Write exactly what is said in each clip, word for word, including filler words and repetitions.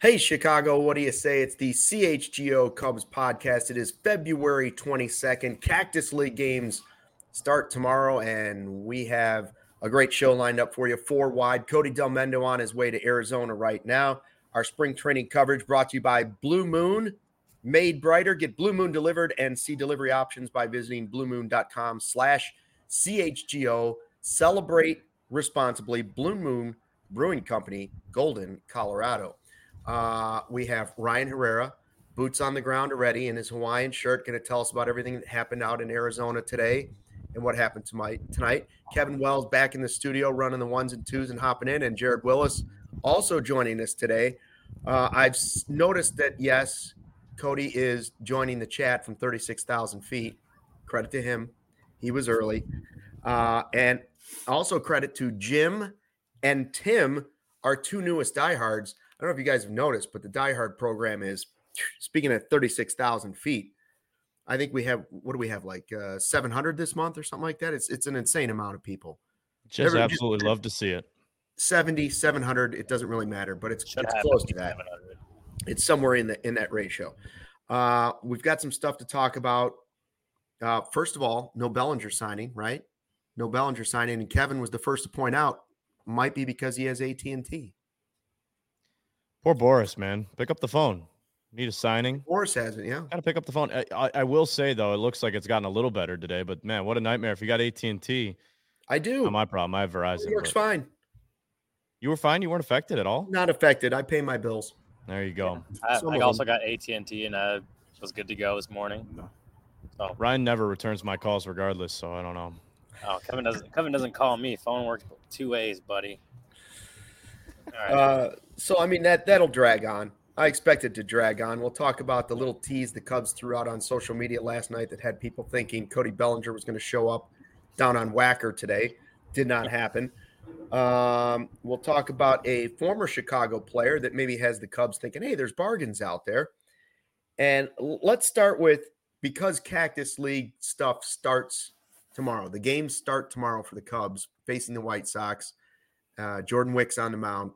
Hey, Chicago, what do you say? It's the C H G O Cubs podcast. It is February twenty-second. Cactus League games start tomorrow, and we have a great show lined up for you. Four wide. Cody Delmendo on his way to Arizona right now. Our spring training coverage brought to you by Blue Moon, made brighter. Get Blue Moon delivered and see delivery options by visiting bluemoon.com slash CHGO. Celebrate responsibly. Blue Moon Brewing Company, Golden, Colorado. Uh, we have Ryan Herrera, boots on the ground already in his Hawaiian shirt, going to tell us about everything that happened out in Arizona today and what happened tonight. tonight. Kevin Wells back in the studio running the ones and twos and hopping in, and Jared Willis also joining us today. Uh, I've noticed that, yes, Cody is joining the chat from thirty-six thousand feet. Credit to him. He was early. Uh, and also credit to Jim and Tim, our two newest diehards. I don't know if you guys have noticed, but the diehard program is, speaking of thirty-six thousand feet, I think we have, what do we have, like uh, seven hundred this month or something like that? It's it's an insane amount of people. Just Never, absolutely just, love to see it. seventy, seven hundred, it doesn't really matter, but it's Should it's close to that. It's somewhere in the in that ratio. Uh, we've got some stuff to talk about. Uh, first of all, no Bellinger signing, right? No Bellinger signing, and Kevin was the first to point out, might be because he has A T and T. Poor Boris, man. Pick up the phone. Need a signing. Boris hasn't, yeah. Got to pick up the phone. I, I, I will say, though, it looks like it's gotten a little better today. But, man, what a nightmare. If you got A T and T. I do. Not my problem. I have Verizon. It works fine. You were fine? You weren't affected at all? Not affected. I pay my bills. There you go. Yeah. I, I also got A T and T, and I was good to go this morning. So. Ryan never returns my calls regardless, so I don't know. Oh, Kevin doesn't Kevin doesn't call me. Phone works two ways, buddy. All right. Uh, so, I mean, that, that'll drag on. I expect it to drag on. We'll talk about the little tease the Cubs threw out on social media last night that had people thinking Cody Bellinger was going to show up down on Wacker today. Did not happen. Um, we'll talk about a former Chicago player that maybe has the Cubs thinking, hey, there's bargains out there. And let's start with, because Cactus League stuff starts tomorrow. The games start tomorrow for the Cubs facing the White Sox. Uh, Jordan Wicks on the mound.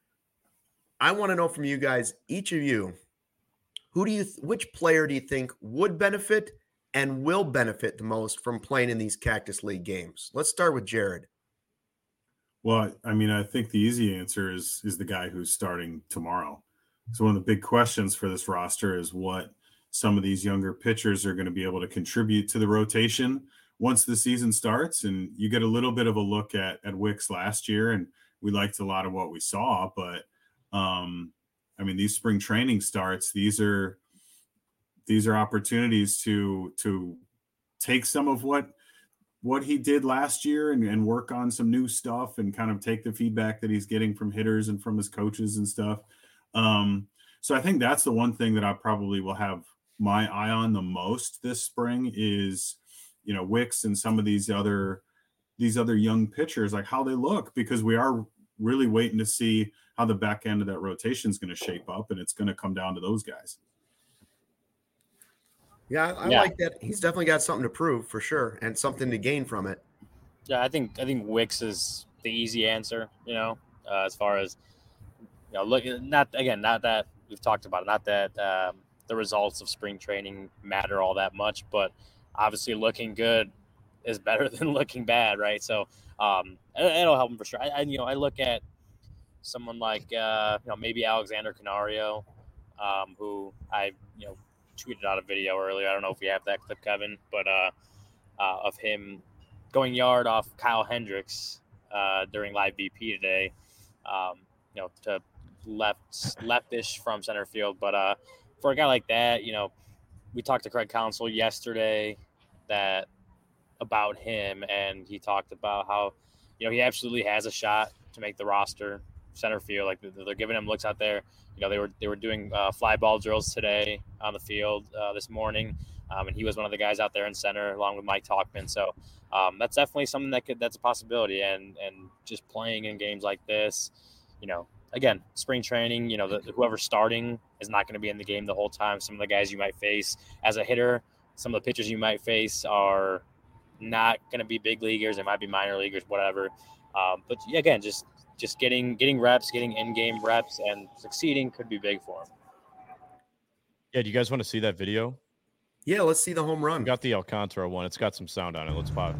I want to know from you guys, each of you, who do you, th- which player do you think would benefit and will benefit the most from playing in these Cactus League games? Let's start with Jared. Well, I mean, I think the easy answer is is the guy who's starting tomorrow. So one of the big questions for this roster is what some of these younger pitchers are going to be able to contribute to the rotation once the season starts. And you get a little bit of a look at, at Wicks last year, and we liked a lot of what we saw. But, um, I mean, these spring training starts, these are these are opportunities to to take some of what what he did last year and, and work on some new stuff and kind of take the feedback that he's getting from hitters and from his coaches and stuff. Um, so I think that's the one thing that I probably will have my eye on the most this spring is, you know, Wicks and some of these other, these other young pitchers, like how they look, because we are really waiting to see how the back end of that rotation is going to shape up, and it's going to come down to those guys. Yeah, I yeah. like that. He's definitely got something to prove for sure, and something to gain from it. Yeah, I think I think Wicks is the easy answer. You know, uh, as far as you know, look, not again, not that we've talked about it, not that um, the results of spring training matter all that much, but obviously looking good is better than looking bad, right? So um, it'll help him for sure. I, I you know I look at someone like uh, you know maybe Alexander Canario, um, who I you know. tweeted out a video earlier. I don't know if we have that clip, Kevin, but uh, uh, of him going yard off Kyle Hendricks uh, during live B P today, um, you know, to left leftish from center field. But uh, for a guy like that, you know, we talked to Craig Counsell yesterday that about him, and he talked about how, you know, he absolutely has a shot to make the roster center field. Like they're giving him looks out there. You know, they were they were doing uh, fly ball drills today on the field uh, this morning, um, and he was one of the guys out there in center along with Mike Talkman. So um, that's definitely something that could that's a possibility. And and just playing in games like this, you know, again, spring training. You know, the, whoever's starting is not going to be in the game the whole time. Some of the guys you might face as a hitter, some of the pitchers you might face are not going to be big leaguers. They might be minor leaguers, whatever. Um, but again, just just getting getting reps, getting in-game reps, and succeeding could be big for him. Yeah, do you guys want to see that video? Yeah, let's see the home run. We got the Alcantara one. It's got some sound on it. Let's pop it.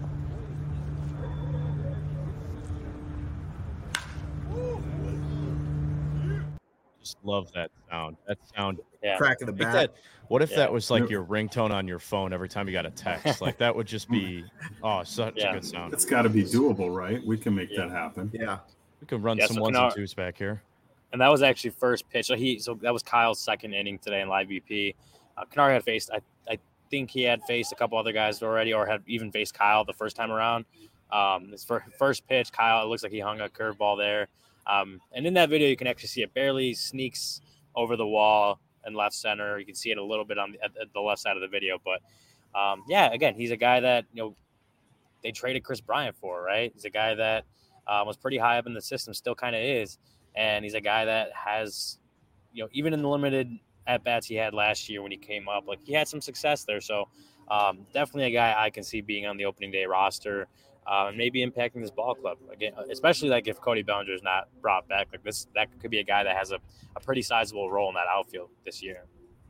Just love that sound. That sound. Yeah. Crack of the bat. That, what if Yeah. that was like your ringtone on your phone every time you got a text? Like that would just be oh, such Yeah. a good sound. It's got to be doable, right? We can make Yeah. that happen. Yeah. We can run Yeah, some so ones Kennard- and twos back here. And that was actually first pitch. So he, so that was Kyle's second inning today in live V P. Uh, Kennard had faced, I, I think he had faced a couple other guys already, or had even faced Kyle the first time around. Um, his fir- first pitch, Kyle, it looks like he hung a curveball there. Um, and in that video, you can actually see it barely sneaks over the wall and left center. You can see it a little bit on the, at, at the left side of the video. But um, yeah, again, he's a guy that, you know, they traded Chris Bryant for, right? He's a guy that um, was pretty high up in the system, still kind of is. And he's a guy that has, you know, even in the limited at-bats he had last year when he came up, like he had some success there. So um, definitely a guy I can see being on the opening day roster uh, and maybe impacting this ball club again, especially like if Cody Bellinger is not brought back. Like this, that could be a guy that has a, a pretty sizable role in that outfield this year.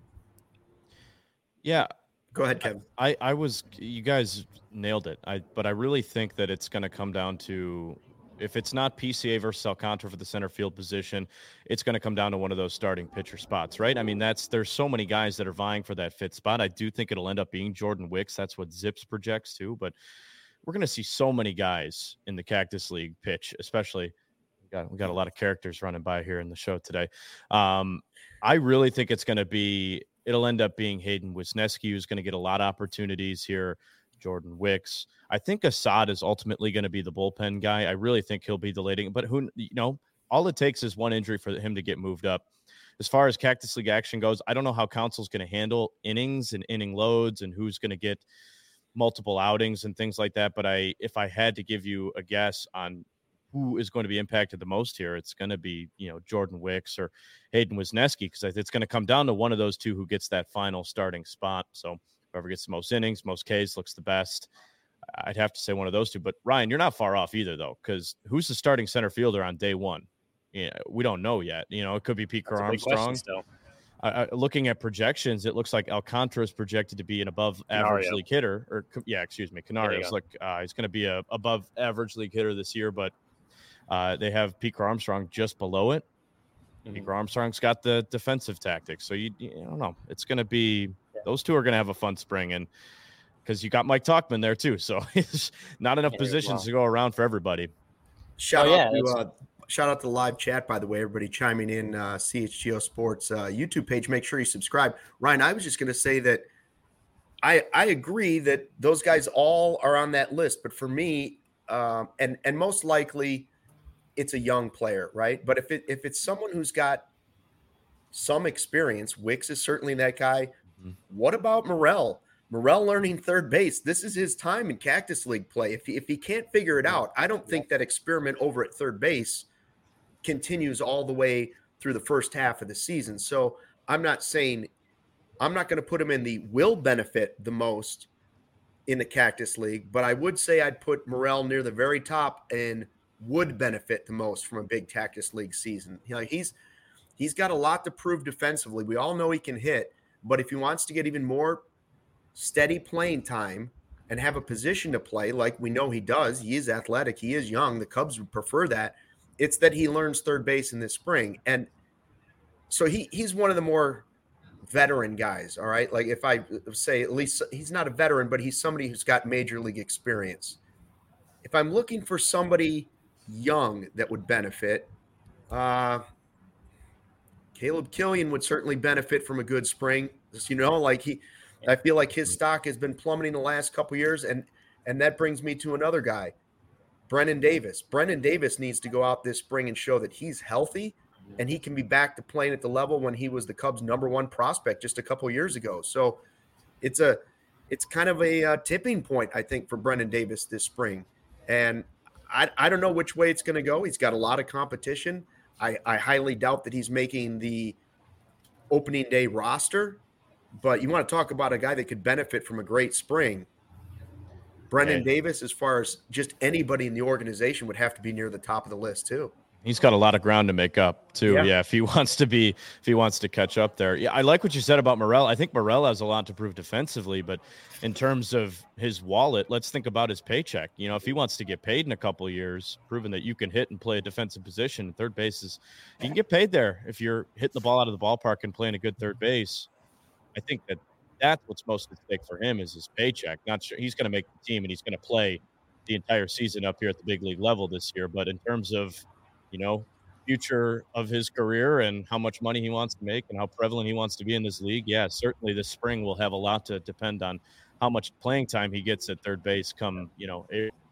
Yeah. Go ahead, Kevin. I, I was, you guys nailed it. I, but I really think that it's going to come down to, if it's not P C A versus Alcantara for the center field position, it's going to come down to one of those starting pitcher spots, right? I mean, that's, there's so many guys that are vying for that fifth spot. I do think it'll end up being Jordan Wicks. That's what Zips projects too, but we're going to see so many guys in the Cactus League pitch, especially we got, we got a lot of characters running by here in the show today. Um, I really think it's going to be, it'll end up being Hayden Wisniewski, who's going to get a lot of opportunities here. Jordan Wicks. I think Assad is ultimately going to be the bullpen guy. I really think he'll be the leading, but who, you know, all it takes is one injury for him to get moved up. As far as Cactus League action goes, I don't know how Council's going to handle innings and inning loads and who's going to get multiple outings and things like that. But I, if I had to give you a guess on who is going to be impacted the most here, it's going to be, you know, Jordan Wicks or Hayden Wisniewski, because it's going to come down to one of those two who gets that final starting spot. So whoever gets the most innings, most Ks, looks the best. I'd have to say one of those two. But, Ryan, you're not far off either, though, because who's the starting center fielder on day one? Yeah, we don't know yet. You know, it could be Pete Armstrong. Uh, looking at projections, it looks like Alcantara is projected to be an above-average Canario. league hitter. Or, yeah, excuse me, Canario's. Look, uh, he's going to be a above-average league hitter this year, but uh, they have Pete Armstrong just below it. Mm-hmm. Pete Armstrong's got the defensive tactics. So, you, you don't know. It's going to be – those two are going to have a fun spring, and because you got Mike Talkman there too, so it's not enough yeah, positions well. to go around for everybody. Shout oh, out yeah, to uh, shout out to the live chat, by the way, everybody chiming in. Uh, C H G O Sports uh, YouTube page. Make sure you subscribe. Ryan, I was just going to say that I I agree that those guys all are on that list, but for me, um, and and most likely, it's a young player, right? But if it if it's someone who's got some experience, Wicks is certainly that guy. Mm-hmm. What about Morel? Morel learning third base. This is his time in Cactus League play. If he, if he can't figure it out, I don't think that experiment over at third base continues all the way through the first half of the season. So I'm not saying I'm not going to put him in the will benefit the most in the Cactus League, but I would say I'd put Morel near the very top and would benefit the most from a big Cactus League season. You know, he's he's got a lot to prove defensively. We all know he can hit, but if he wants to get even more steady playing time and have a position to play like we know he does, he is athletic, he is young, the Cubs would prefer that, it's that he learns third base in this spring. And so he he's one of the more veteran guys, all right? Like if I say at least he's not a veteran, but he's somebody who's got major league experience. If I'm looking for somebody young that would benefit, uh, Caleb Killian would certainly benefit from a good spring. You know, like he, I feel like his stock has been plummeting the last couple of years, and and that brings me to another guy, Brennan Davis. Brennan Davis needs to go out this spring and show that he's healthy and he can be back to playing at the level when he was the Cubs' number one prospect just a couple of years ago. So it's a, it's kind of a uh, tipping point, I think, for Brennan Davis this spring. And I, I don't know which way it's going to go. He's got a lot of competition. I, I highly doubt that he's making the opening day roster, but you want to talk about a guy that could benefit from a great spring. Brennan okay. Davis, as far as just anybody in the organization, would have to be near the top of the list too. He's got a lot of ground to make up too. Yeah. yeah. If he wants to be, if he wants to catch up there. Yeah. I like what you said about Morel. I think Morel has a lot to prove defensively, but in terms of his wallet, let's think about his paycheck. You know, if he wants to get paid in a couple of years, proving that you can hit and play a defensive position, third base is, you can get paid there. If you're hitting the ball out of the ballpark and playing a good third base, I think that that's what's most at stake for him is his paycheck. Not sure he's going to make the team and he's going to play the entire season up here at the big league level this year. But in terms of, you know, future of his career and how much money he wants to make and how prevalent he wants to be in this league, yeah, certainly this spring will have a lot to depend on how much playing time he gets at third base come, you know.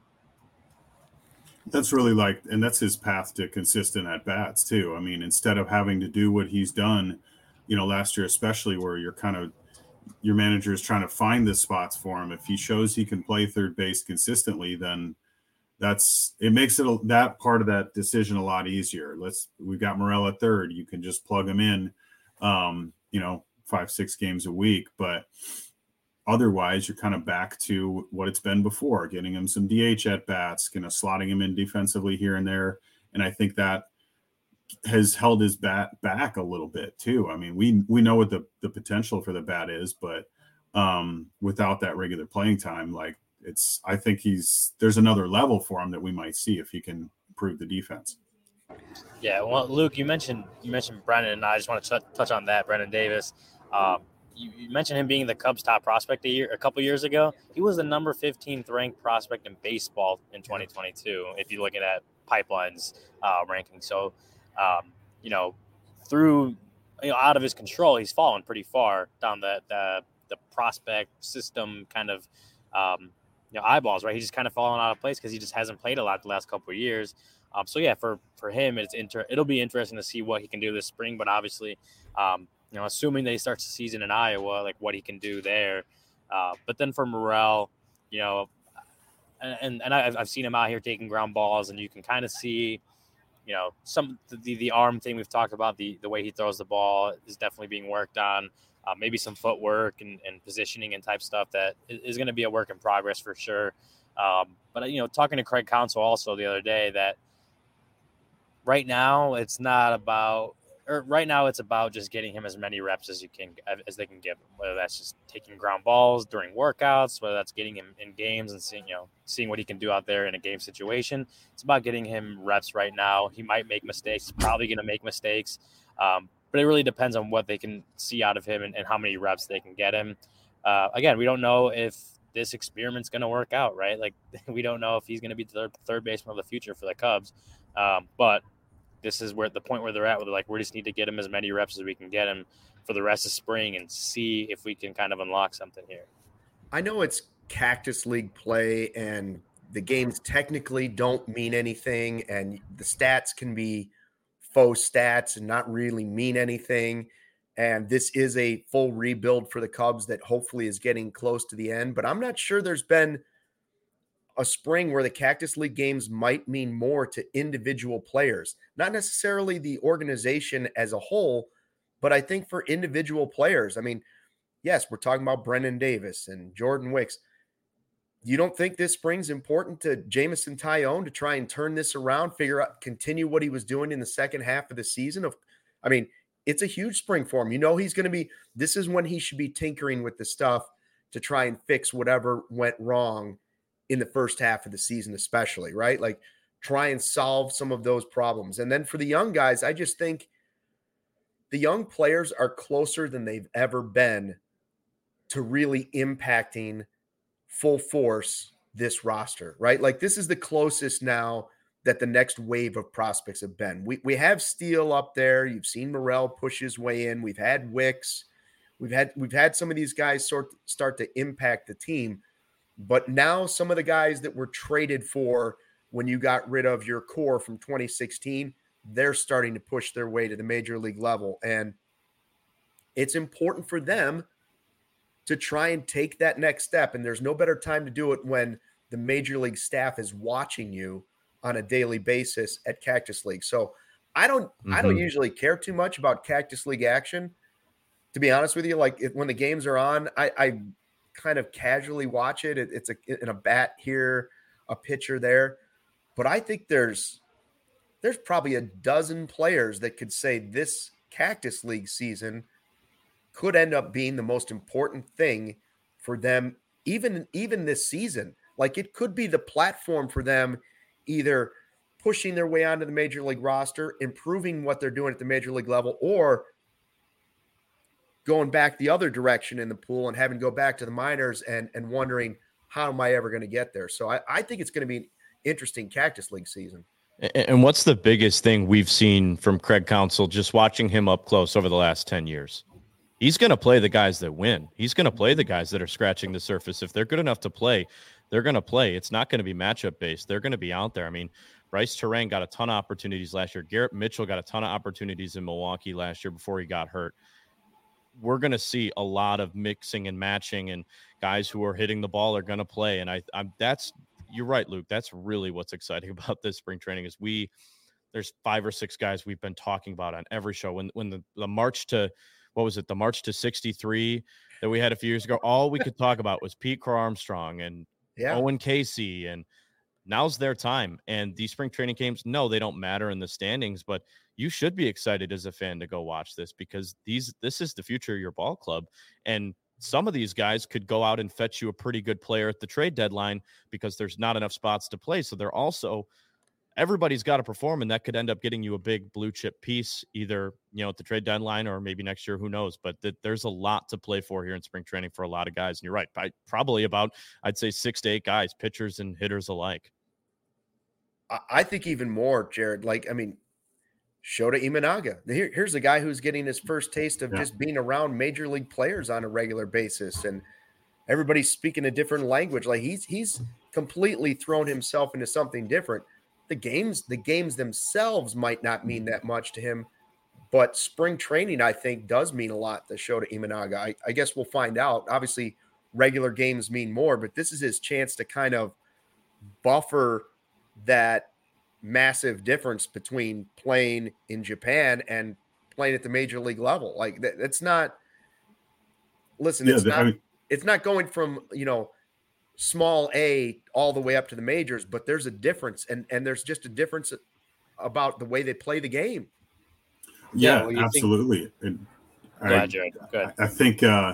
That's really like, and that's his path to consistent at bats too. I mean, instead of having to do what he's done, you know, last year, especially where you're kind of, your manager is trying to find the spots for him. If he shows he can play third base consistently, then that's it makes it a, that part of that decision a lot easier. Let's we've got Morel at third. You can just plug him in, um, you know, five, six games a week. But otherwise, you're kind of back to what it's been before, getting him some D H at bats, kind of slotting him in defensively here and there. And I think that has held his bat back a little bit too. I mean, we we know what the, the potential for the bat is, but um, without that regular playing time, like, it's I think he's there's another level for him that we might see if he can improve the defense. Yeah, well, Luke, you mentioned you mentioned Brennan, and I just want to t- touch on that. Brennan Davis, um, you, you mentioned him being the Cubs' top prospect a year, a couple years ago. He was the number fifteenth ranked prospect in baseball in twenty twenty-two. If you're looking at Pipeline's uh, ranking, so um, you know, through you know out of his control, he's fallen pretty far down the the, the prospect system kind of. Um, You know, eyeballs, right? He's just kind of fallen out of place because he just hasn't played a lot the last couple of years. Um, so yeah, for for him, it's inter- it'll be interesting to see what he can do this spring. But obviously, um, you know, assuming that he starts the season in Iowa, like what he can do there. Uh, but then for Morel, you know, and and I've I've seen him out here taking ground balls, and you can kind of see, you know, some the the arm thing we've talked about, the the way he throws the ball is definitely being worked on. Uh, maybe some footwork and, and positioning and type stuff that is, is going to be a work in progress for sure. Um, but, you know, talking to Craig Counsell also the other day that right now it's not about or right now it's about just getting him as many reps as you can as they can give him, whether that's just taking ground balls during workouts, whether that's getting him in games and seeing, you know, seeing what he can do out there in a game situation. It's about getting him reps right now. He might make mistakes. He's probably going to make mistakes. Um, But it really depends on what they can see out of him and, and how many reps they can get him. Uh, again, we don't know if this experiment's going to work out, right? Like, we don't know if he's going to be the third, third baseman of the future for the Cubs. Um, but this is where the point where they're at, where they're like, we just need to get him as many reps as we can get him for the rest of spring and see if we can kind of unlock something here. I know it's Cactus League play and the games technically don't mean anything and the stats can be faux stats and not really mean anything. And this is a full rebuild for the Cubs that hopefully is getting close to the end. But I'm not sure there's been a spring where the Cactus League games might mean more to individual players, not necessarily the organization as a whole, but I think for individual players. I mean, yes, we're talking about Brennan Davis and Jordan Wicks. You don't think this spring's important to Jameson Taillon to try and turn this around, figure out, continue what he was doing in the second half of the season? Of, I mean, it's a huge spring for him. You know, he's going to be, this is when he should be tinkering with the stuff to try and fix whatever went wrong in the first half of the season, especially, right? Like try and solve some of those problems. And then for the young guys, I just think the young players are closer than they've ever been to really impacting full force this roster, right? Like this is the closest now that the next wave of prospects have been. We we have Steele up there. You've seen Morel push his way in. We've had Wicks. We've had we've had some of these guys sort start to impact the team. But now some of the guys that were traded for when you got rid of your core from twenty sixteen, they're starting to push their way to the major league level. And it's important for them to try and take that next step. And there's no better time to do it when the major league staff is watching you on a daily basis at Cactus League. So I don't, mm-hmm. I don't usually care too much about Cactus League action, to be honest with you. Like if, when the games are on, I, I kind of casually watch it. it. It's a, in a bat here, a pitcher there, but I think there's there's probably a dozen players that could say this Cactus League season could end up being the most important thing for them, even, even this season. Like it could be the platform for them either pushing their way onto the major league roster, improving what they're doing at the major league level, or going back the other direction in the pool and having to go back to the minors and, and wondering, how am I ever going to get there? So I, I think it's going to be an interesting Cactus League season. And what's the biggest thing we've seen from Craig Counsell, just watching him up close over the last ten years? He's going to play the guys that win. He's going to play the guys that are scratching the surface. If they're good enough to play, they're going to play. It's not going to be matchup based. They're going to be out there. I mean, Bryce Terang got a ton of opportunities last year. Garrett Mitchell got a ton of opportunities in Milwaukee last year before he got hurt. We're going to see a lot of mixing and matching, and guys who are hitting the ball are going to play. And I, I'm that's, you're right, Luke. That's really what's exciting about this spring training is we, there's five or six guys we've been talking about on every show. When, when the, the March to, what was it? The March to sixty-three that we had a few years ago, all we could talk about was Pete Crow Armstrong and yeah. Owen Casey, and now's their time. And these spring training games, no, they don't matter in the standings, but you should be excited as a fan to go watch this because these, this is the future of your ball club. And some of these guys could go out and fetch you a pretty good player at the trade deadline because there's not enough spots to play. So they're also, everybody's got to perform, and that could end up getting you a big blue chip piece, either, you know, at the trade deadline or maybe next year, who knows, but th- there's a lot to play for here in spring training for a lot of guys. And you're right. I, probably about, I'd say six to eight guys, pitchers and hitters alike. I think even more, Jared, like, I mean, Shota Imanaga. Here, here's a guy who's getting his first taste of yeah. just being around major league players on a regular basis, and everybody's speaking a different language. Like he's he's completely thrown himself into something different. The games, the games themselves might not mean that much to him, but spring training, I think, does mean a lot to Shota Imanaga. I, I guess we'll find out. Obviously, regular games mean more, but this is his chance to kind of buffer that massive difference between playing in Japan and playing at the major league level. Like that, that's not, listen, yeah, it's not, I mean, it's not going from, you know, small A all the way up to the majors, but there's a difference. And, and there's just a difference about the way they play the game. Yeah, yeah absolutely. Think- and I, Jared. Good. I think uh,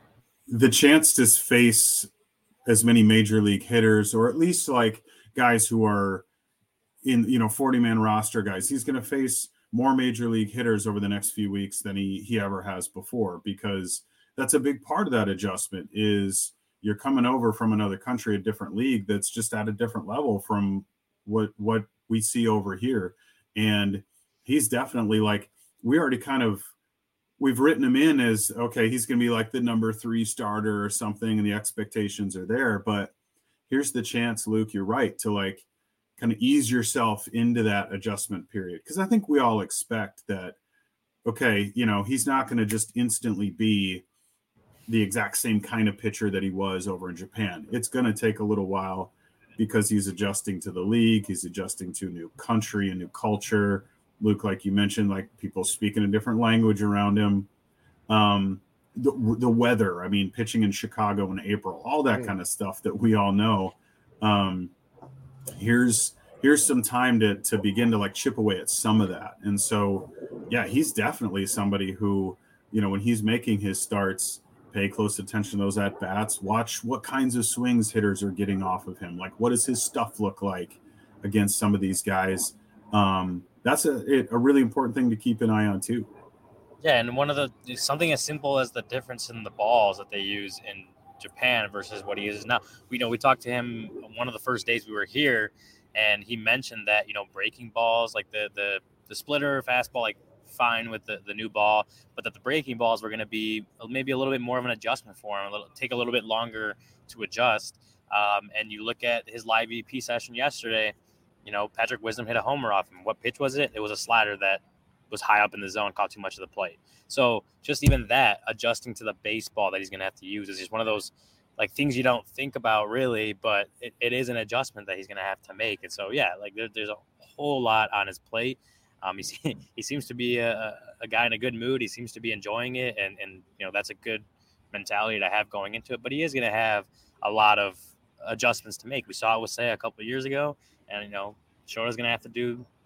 the chance to face as many major league hitters, or at least like guys who are in, you know, forty man roster guys, he's going to face more major league hitters over the next few weeks than he, he ever has before, because that's a big part of that adjustment is you're coming over from another country, a different league that's just at a different level from what, what we see over here. And he's definitely like, we already kind of, we've written him in as, okay, he's going to be like the number three starter or something. And the expectations are there, but here's the chance, Luke, you're right, to like kind of ease yourself into that adjustment period. Cause I think we all expect that, okay, you know, he's not going to just instantly be the exact same kind of pitcher that he was over in Japan. It's going to take a little while because he's adjusting to the league. He's adjusting to a new country, a new culture. Luke, like you mentioned, like people speaking a different language around him. Um, the, the weather, I mean, pitching in Chicago in April, all that kind of stuff that we all know. Um, here's, here's some time to, to begin to like chip away at some of that. And so, yeah, he's definitely somebody who, you know, when he's making his starts, pay close attention to those at bats, watch what kinds of swings hitters are getting off of him. Like, what does his stuff look like against some of these guys? Um, that's a, a really important thing to keep an eye on too. Yeah. And one of the, something as simple as the difference in the balls that they use in Japan versus what he uses now. We know we talked to him one of the first days we were here, and he mentioned that, you know, breaking balls, like the, the, the splitter fastball, like, fine with the, the new ball, but that the breaking balls were going to be maybe a little bit more of an adjustment for him, a little, take a little bit longer to adjust. Um, and you look at his live E P session yesterday, you know, Patrick Wisdom hit a homer off him. What pitch was it? It was a slider that was high up in the zone, caught too much of the plate. So just even that, adjusting to the baseball that he's going to have to use is just one of those like things you don't think about really, but it, it is an adjustment that he's going to have to make. And so, yeah, like there, there's a whole lot on his plate. Um, he he seems to be a, a guy in a good mood. He seems to be enjoying it, and and you know that's a good mentality to have going into it. But he is going to have a lot of adjustments to make. We saw it with Seiya a couple of years ago, and you know Shota's going to have to do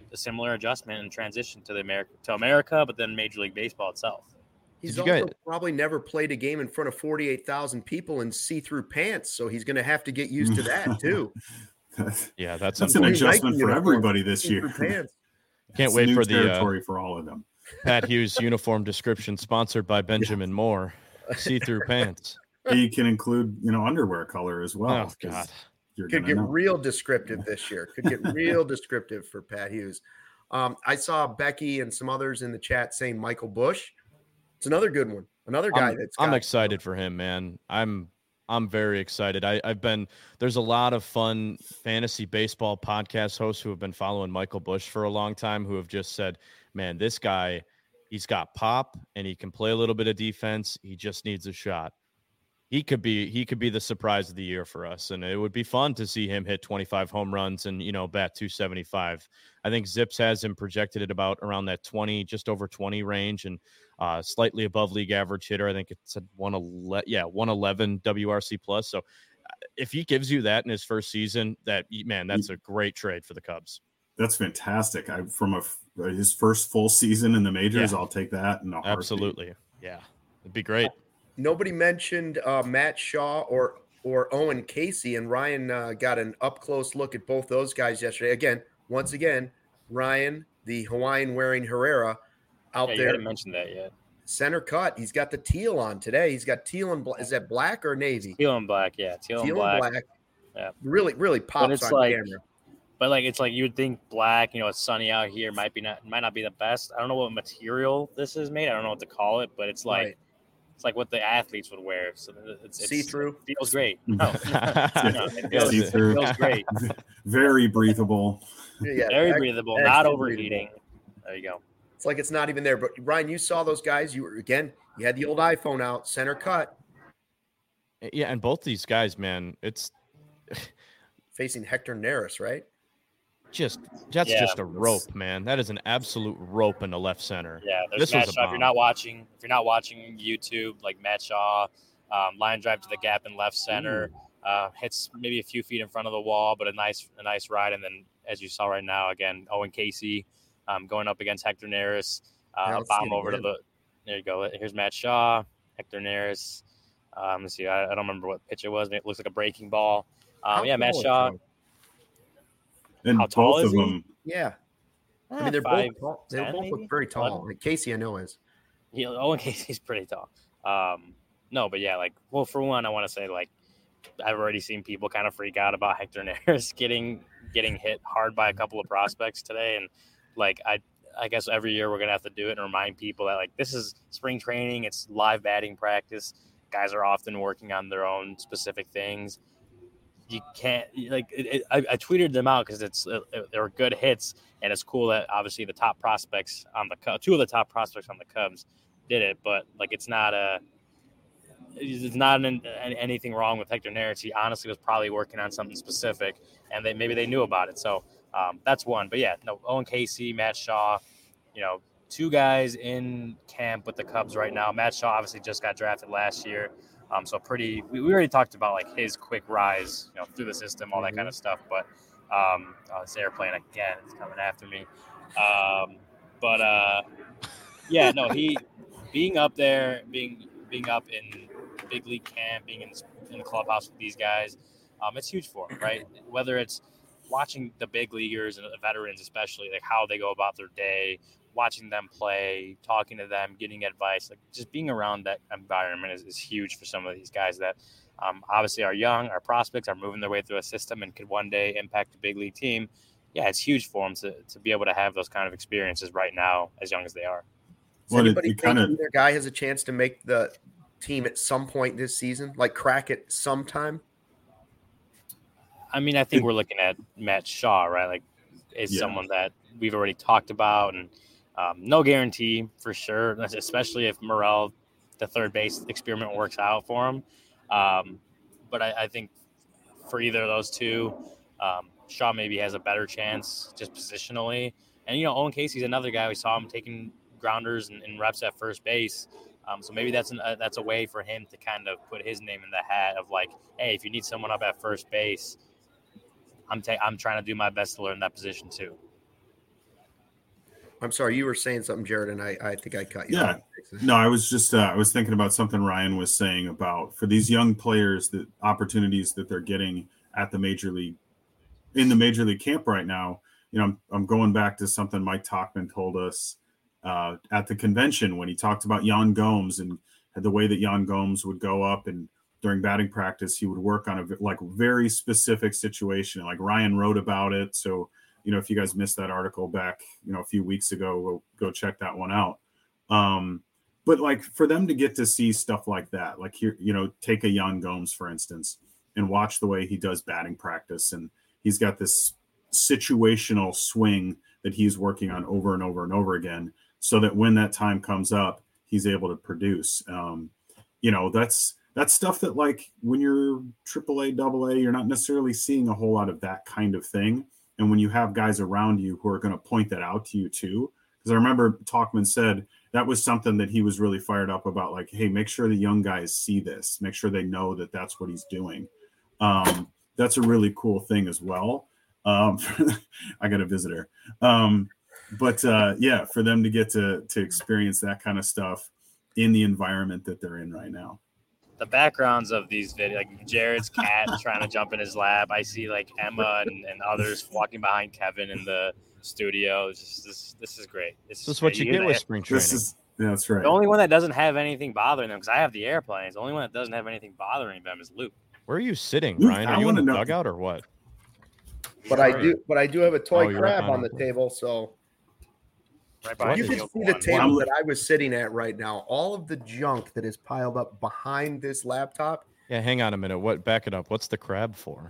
a similar adjustment and transition to the America to America, but then Major League Baseball itself. He's you also guys- probably never played a game in front of forty-eight thousand people in see-through pants, so he's going to have to get used to that too. Yeah, that's, that's an unfortunate. adjustment for uniform, everybody this year. see-through pants. Can't It's wait new for the uh, territory for all of them. Pat Hughes uniform description sponsored by Benjamin Moore. See-through pants. You can include, you know, underwear color as well. Oh, 'cause God. You're Could gonna get know. real descriptive this year. Could get real descriptive for Pat Hughes. Um, I saw Becky and some others in the chat saying Michael Bush. It's another good one. Another guy I'm, that's. I'm got- excited for him, man. I'm I'm very excited. I, I've been there's a lot of fun fantasy baseball podcast hosts who have been following Michael Bush for a long time who have just said, man, this guy, he's got pop and he can play a little bit of defense. He just needs a shot. He could be he could be the surprise of the year for us, and it would be fun to see him hit twenty-five home runs and, you know, bat two seventy-five. I think Zips has him projected at about around that twenty, just over twenty range, and uh, slightly above league average hitter. I think it's at one eleven, yeah, one eleven W R C plus. So if he gives you that in his first season, that man, that's a great trade for the Cubs. That's fantastic. I from a his first full season in the majors, Yeah. I'll take that. In a heartbeat. Absolutely, yeah, it'd be great. Nobody mentioned uh, Matt Shaw or or Owen Casey, and Ryan uh, got an up close look at both those guys yesterday. Again, once again, Ryan, the Hawaiian wearing Herrera, out Yeah, you there, hadn't mentioned that yet. center cut. He's got the teal on today. He's got teal and black. Is that black or navy? Teal and black, yeah, teal, Teal and black. and black. Yeah. Really, really pops it's on like- camera. But like it's like you would think black, you know, it's sunny out here, might be not might not be the best. I don't know what material this is made. I don't know what to call it, but it's like Right. it's like what the athletes would wear. So it's, it's See-through? It feels great. No, no, it feels, it See-through. feels great. Very breathable. Yeah, Very ex- breathable, extra not breathable. overheating. There you go. It's like it's not even there. But Ryan, you saw those guys. You were again. You had the old iPhone out, center cut, Yeah, and both these guys, man, it's facing Hector Neris, right? just that's Yeah, just a that's- rope, man. That is an absolute rope in the left center. Yeah, there's This Matt was a Shaw. If you're bomb. not watching, if you're not watching YouTube, like Matt Shaw, um, line drive to the gap in left center, uh, hits maybe a few feet in front of the wall, but a nice, a nice ride. And then, as you saw right now, again, Owen Casey um, going up against Hector Neris, Yeah, uh, let's see bomb it over to again. the. There you go. Here's Matt Shaw, Hector Neris. Um, let's see. I, I don't remember what pitch it was. It looks like a breaking ball. How Um, yeah, Matt tall is Shaw. Shaw? And How tall both is of he? them, Yeah. I eh, mean, they're five, both tall. They ten, both maybe? look very tall. eleven. Like Casey, I know is. Yeah, Owen Casey's pretty tall. Um, no, but yeah, like, well, for one, I want to say, like, I've already seen people kind of freak out about Hector Neris getting getting hit hard by a couple of prospects today, and like, I I guess every year we're gonna have to do it and remind people that like this is spring training, it's live batting practice. Guys are often working on their own specific things. You can't like it, it, I, I tweeted them out because it's uh, they were good hits, and it's cool that obviously the top prospects on the Cubs, two of the top prospects on the Cubs did it, but like it's not a it's not an, anything wrong with Hector Neris. He honestly was probably working on something specific, and they maybe they knew about it. So um, that's one. But yeah, no, Owen Casey, Matt Shaw, you know, two guys in camp with the Cubs right now. Matt Shaw obviously just got drafted last year. Um, so pretty, we, we already talked about like his quick rise, you know, through the system, all that kind of stuff. But um, oh, this airplane again, it's coming after me. Um, but uh, yeah, no, he being up there, being being up in big league camp, being in, in the clubhouse with these guys, um, it's huge for him, right? Whether it's watching the big leaguers and the veterans, especially like how they go about their day, watching them play, talking to them, getting advice, like just being around that environment is, is huge for some of these guys that um, obviously are young, are prospects, are moving their way through a system and could one day impact a big league team. Yeah, it's huge for them to, to be able to have those kind of experiences right now, as young as they are. Does Well, it- anybody it think kinda- either guy has a chance to make the team at some point this season, like crack it sometime? I mean, I think we're looking at Matt Shaw, right? Like, is Yeah. someone that we've already talked about, and um, no guarantee for sure, especially if Morel, the third base experiment, works out for him. Um, but I, I think for either of those two, um, Shaw maybe has a better chance just positionally. And, you know, Owen Casey's another guy. We saw him taking grounders and, and reps at first base. Um, so maybe that's an, uh, that's a way for him to kind of put his name in the hat of like, hey, if you need someone up at first base, I'm ta- I'm trying to do my best to learn that position too. I'm sorry, you were saying something, Jared, and I, I think I cut you Yeah. off. No, I was just uh, I was thinking about something Ryan was saying about for these young players, the opportunities that they're getting at the major league in the major league camp right now. You know, I'm, I'm going back to something Mike Tauchman told us uh, at the convention when he talked about Yan Gomes and the way that Yan Gomes would go up and during batting practice, he would work on a like very specific situation. Like Ryan wrote about it. So, you know, if you guys missed that article back, you know, a few weeks ago, we'll go check that one out. Um, but like for them to get to see stuff like that, like here, you know, take a Yan Gomes, for instance, and watch the way he does batting practice. And he's got this situational swing that he's working on over and over and over again so that when that time comes up, he's able to produce. Um, you know, that's, that's stuff that like when you're triple A, double A, you're not necessarily seeing a whole lot of that kind of thing. And when you have guys around you who are going to point that out to you too, because I remember Tauchman said that was something that he was really fired up about. Like, hey, make sure the young guys see this, make sure they know that that's what he's doing. Um, that's a really cool thing as well. Um, I got a visitor. Um, but uh, yeah, for them to get to, to experience that kind of stuff in the environment that they're in right now. The backgrounds of these videos, like Jared's cat trying to jump in his lap. I see like Emma and, and others walking behind Kevin in the studio. It's just, this this is great. This, This is great. what you You get get with the- spring training. This is, yeah, that's right. The only one that doesn't have anything bothering them, because I have the airplanes, the only one that doesn't have anything bothering them is Luke. Where are you sitting, Luke, Ryan? I Are you in wanna the know- dugout or what? But I Sorry. do, but I do have a toy Oh, you're crab up on on the it. table, so Right behind you the can field see the one. table I'm- that I was sitting at right now. All of the junk that is piled up behind this laptop. Yeah, hang on a minute. What? Back it up. What's the crab for?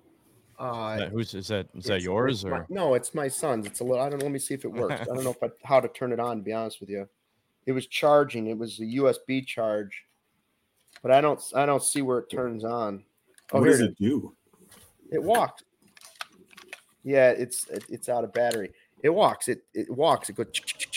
Uh, Is that, who's is that? Is that it's- yours it's my- or? no? It's my son's. It's a little. I don't know. Let me see if it works. I don't know if I, how to turn it on. To be honest with you, it was charging. It was a U S B charge, but I don't. I don't see where it turns on. Oh, what here does it is. it do? It walks. Yeah, it's it, it's out of battery. It walks. It it walks. It goes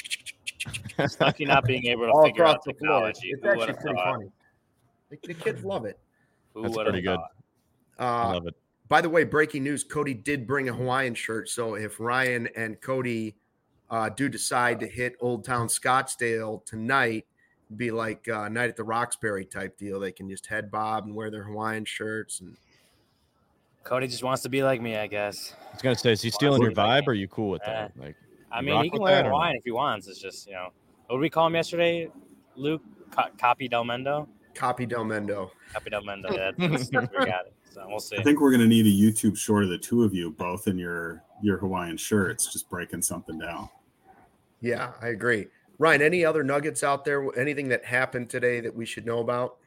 It's lucky not being able to all figure across out the floor. technology. It's Who would actually have pretty thought? funny. The, the kids love it. Who That's would have pretty good. thought? I Uh, love it. by the way, breaking news: Cody did bring a Hawaiian shirt. So if Ryan and Cody uh, do decide to hit Old Town Scottsdale tonight, be like uh, Night at the Roxbury type deal. They can just head bob and wear their Hawaiian shirts. And Cody just wants to be like me, I guess. I was gonna say, is he stealing your Like- vibe? Or are you cool with that? Like, I You mean, rock he can with wear that or Hawaiian no? if he wants. It's just, you know, what did we call him yesterday, Luke? Co- Copy Del Mendo? copy Del Mendo. Copy Del Mendo. Yeah, that's, that's, we got it. So we'll see. I think we're going to need a YouTube short of the two of you, both in your your Hawaiian shirts, just breaking something down. Yeah, I agree. Ryan, any other nuggets out there? Anything that happened today that we should know about?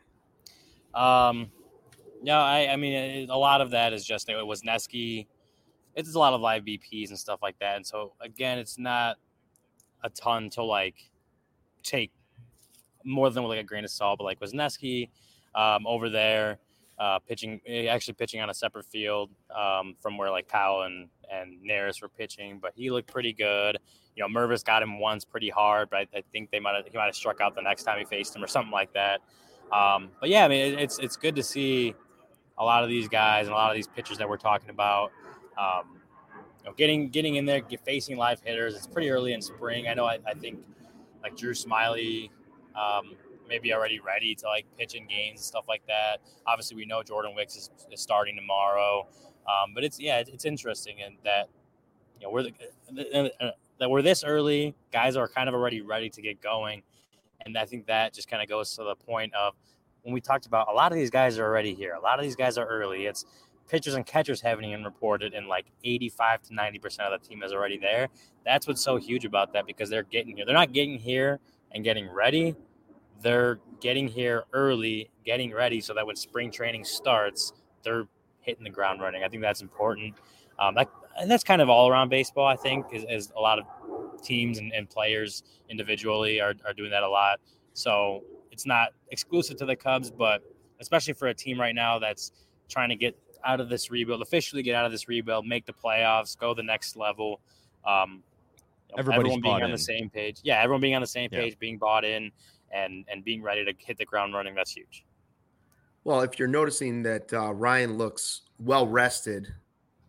Um, no, I, I mean, it, a lot of that is just it was Nesky. It's a lot of live B Ps and stuff like that. And so again, it's not a ton to like take more than like a grain of salt. But like Wisniewski um, over there, uh, pitching actually pitching on a separate field um, from where like Powell and and Neris were pitching, but he looked pretty good. You know, Mervis got him once pretty hard, but I, I think they might have he might have struck out the next time he faced him or something like that. Um, but yeah, I mean, it, it's it's good to see a lot of these guys and a lot of these pitchers that we're talking about, um, you know, getting getting in there, get, facing live hitters. It's pretty early in spring. I know. I, I think like Drew Smiley, um, maybe already ready to like pitch in games and stuff like that. Obviously, we know Jordan Wicks is, is starting tomorrow, um, but it's yeah, it's, it's interesting and that you know we're the, uh, that we're this early. Guys are kind of already ready to get going, and I think that just kind of goes to the point of when we talked about a lot of these guys are already here. A lot of these guys are early. It's pitchers and catchers haven't even reported, and like eighty-five to ninety percent of the team is already there. That's what's so huge about that because they're getting here. They're not getting here and getting ready. They're getting here early, getting ready so that when spring training starts, they're hitting the ground running. I think that's important. Um, that, and that's kind of all around baseball, I think, is, is a lot of teams and, and players individually are, are doing that a lot. So it's not exclusive to the Cubs, but especially for a team right now that's trying to get out of this rebuild, officially get out of this rebuild, make the playoffs, go the next level. Um, Everybody's everyone being bought on in. the same page. Yeah, everyone being on the same Yeah. page, being bought in and and being ready to hit the ground running, that's huge. Well, if you're noticing that uh, Ryan looks well rested,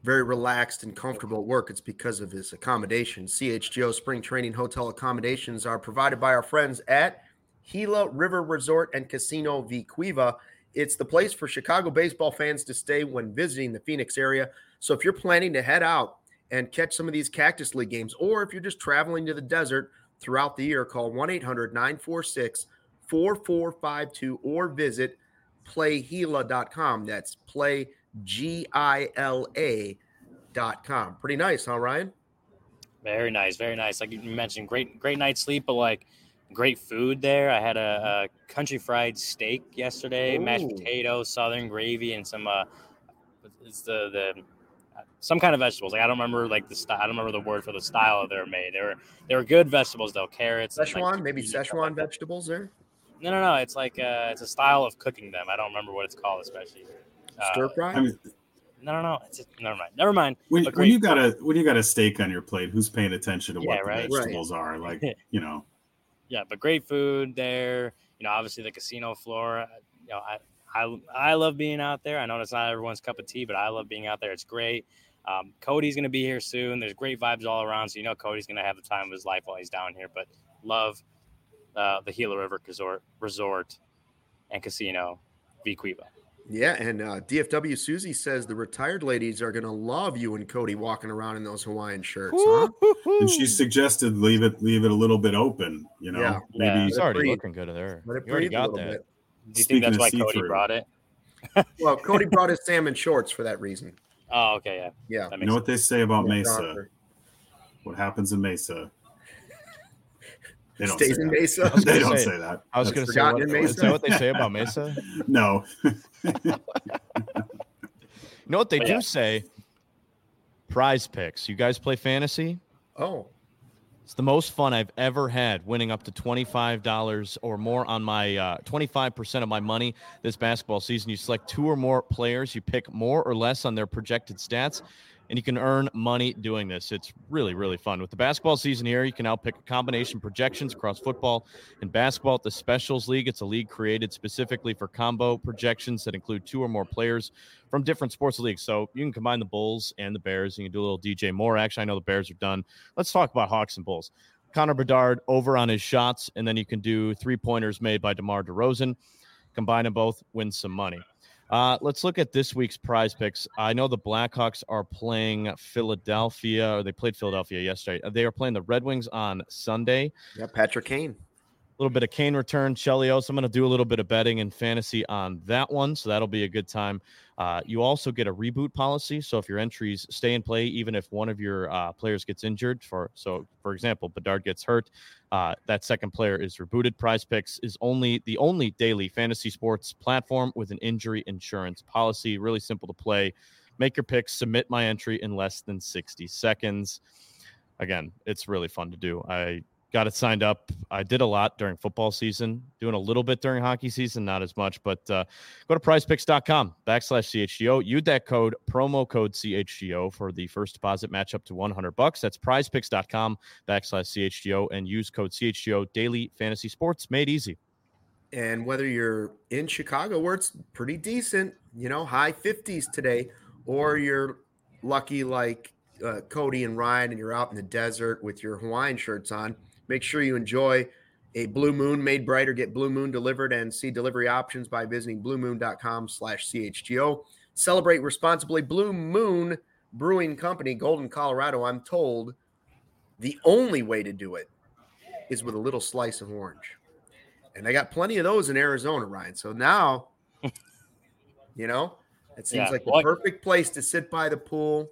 very relaxed and comfortable at work, it's because of his accommodations. C H G O Spring Training Hotel accommodations are provided by our friends at Gila River Resort and Casino Vicuiva. It's the place for Chicago baseball fans to stay when visiting the Phoenix area. So if you're planning to head out and catch some of these Cactus League games, or if you're just traveling to the desert throughout the year, call one eight hundred nine four six four four five two or visit play gila dot com. That's play G I L A dot com. Pretty nice, huh, Ryan? Very nice, very nice. Like you mentioned, great, great night's sleep, but like great food there. I had a, a country fried steak yesterday, Ooh. mashed potatoes, southern gravy, and some uh, it's the the some kind of vegetables. Like I don't remember like the style. I don't remember the word for the style they were made. They were they were good vegetables though. Carrots, and, Szechuan, like, maybe stuff Szechuan like that. vegetables there. No, no, no. It's like uh, it's a style of cooking them. I don't remember what it's called, especially. Uh, Stir fry. I mean, No, no, no. It's just, never mind. Never mind. when, But when great you got a when you got a steak on your plate, who's paying attention to Yeah, what the right. vegetables are? Like, you know, Yeah, but great food there. You know, obviously the casino floor. You know, I I I love being out there. I know it's not everyone's cup of tea, but I love being out there. It's great. Um, Cody's going to be here soon. There's great vibes all around, so you know Cody's going to have the time of his life while he's down here. But love uh, the Gila River Resort, Resort and Casino, Vicuiva. Yeah, and uh, D F W Susie says the retired ladies are going to love you and Cody walking around in those Hawaiian shirts, huh? and she suggested leave it leave it a little bit open. You know, Yeah. maybe Yeah. He's already breathe. looking good there. Let it You already breathe a got little that. bit. Do you Speaking think that's of why Cody see-through. brought it? Well, Cody brought his salmon shorts for that reason. Oh, okay, yeah. Yeah. That you makes know what they say about Yeah, Mesa. doctor. What happens in Mesa? They don't Stays say in that. Mesa. was They gonna don't say- say that. I was That's going to say, forgotten what, in is Mesa. that what they say about Mesa? no. You know what they But do yeah. say? Prize picks. You guys play fantasy? Oh, It's the most fun I've ever had, winning up to twenty-five dollars or more on my uh, twenty-five percent of my money this basketball season. You select two or more players. You pick more or less on their projected stats, and you can earn money doing this. It's really, really fun. With the basketball season here, you can now pick a combination projections across football and basketball. At the Specials League, it's a league created specifically for combo projections that include two or more players from different sports leagues. So you can combine the Bulls and the Bears. You can do a little D J Moore action. I know the Bears are done. Let's talk about Hawks and Bulls. Connor Bedard over on his shots, and then you can do three-pointers made by DeMar DeRozan. Combine them both, win some money. Uh, let's look at this week's prize picks. I know the Blackhawks are playing Philadelphia, or they played Philadelphia yesterday. They are playing the Red Wings on Sunday. yeah, Patrick Kane. A little bit of Kane return, Chelios. I'm going to do a little bit of betting and fantasy on that one, so that'll be a good time. Uh, you also get a reboot policy, so if your entries stay in play, even if one of your uh, players gets injured, for so for example, Bedard gets hurt, uh, that second player is rebooted. Prize Picks is only the only daily fantasy sports platform with an injury insurance policy. Really simple to play. Make your picks, submit my entry in less than sixty seconds. Again, it's really fun to do. I got it signed up. I did a lot during football season, doing a little bit during hockey season, not as much, but uh, go to prizepicks.com backslash CHGO. Use that code, promo code C H G O for the first deposit match up to one hundred bucks. That's prizepicks.com backslash CHGO and use code C H G O. Daily fantasy sports made easy. And whether you're in Chicago where it's pretty decent, you know, high fifties today, or you're lucky like uh, Cody and Ryan and you're out in the desert with your Hawaiian shirts on, make sure you enjoy a Blue Moon made brighter. Get Blue Moon delivered and see delivery options by visiting bluemoon.com slash CHGO. Celebrate responsibly. Blue Moon Brewing Company, Golden, Colorado. I'm told the only way to do it is with a little slice of orange. And I got plenty of those in Arizona, Ryan. So now, you know, it seems Yeah. like the Well, perfect place to sit by the pool,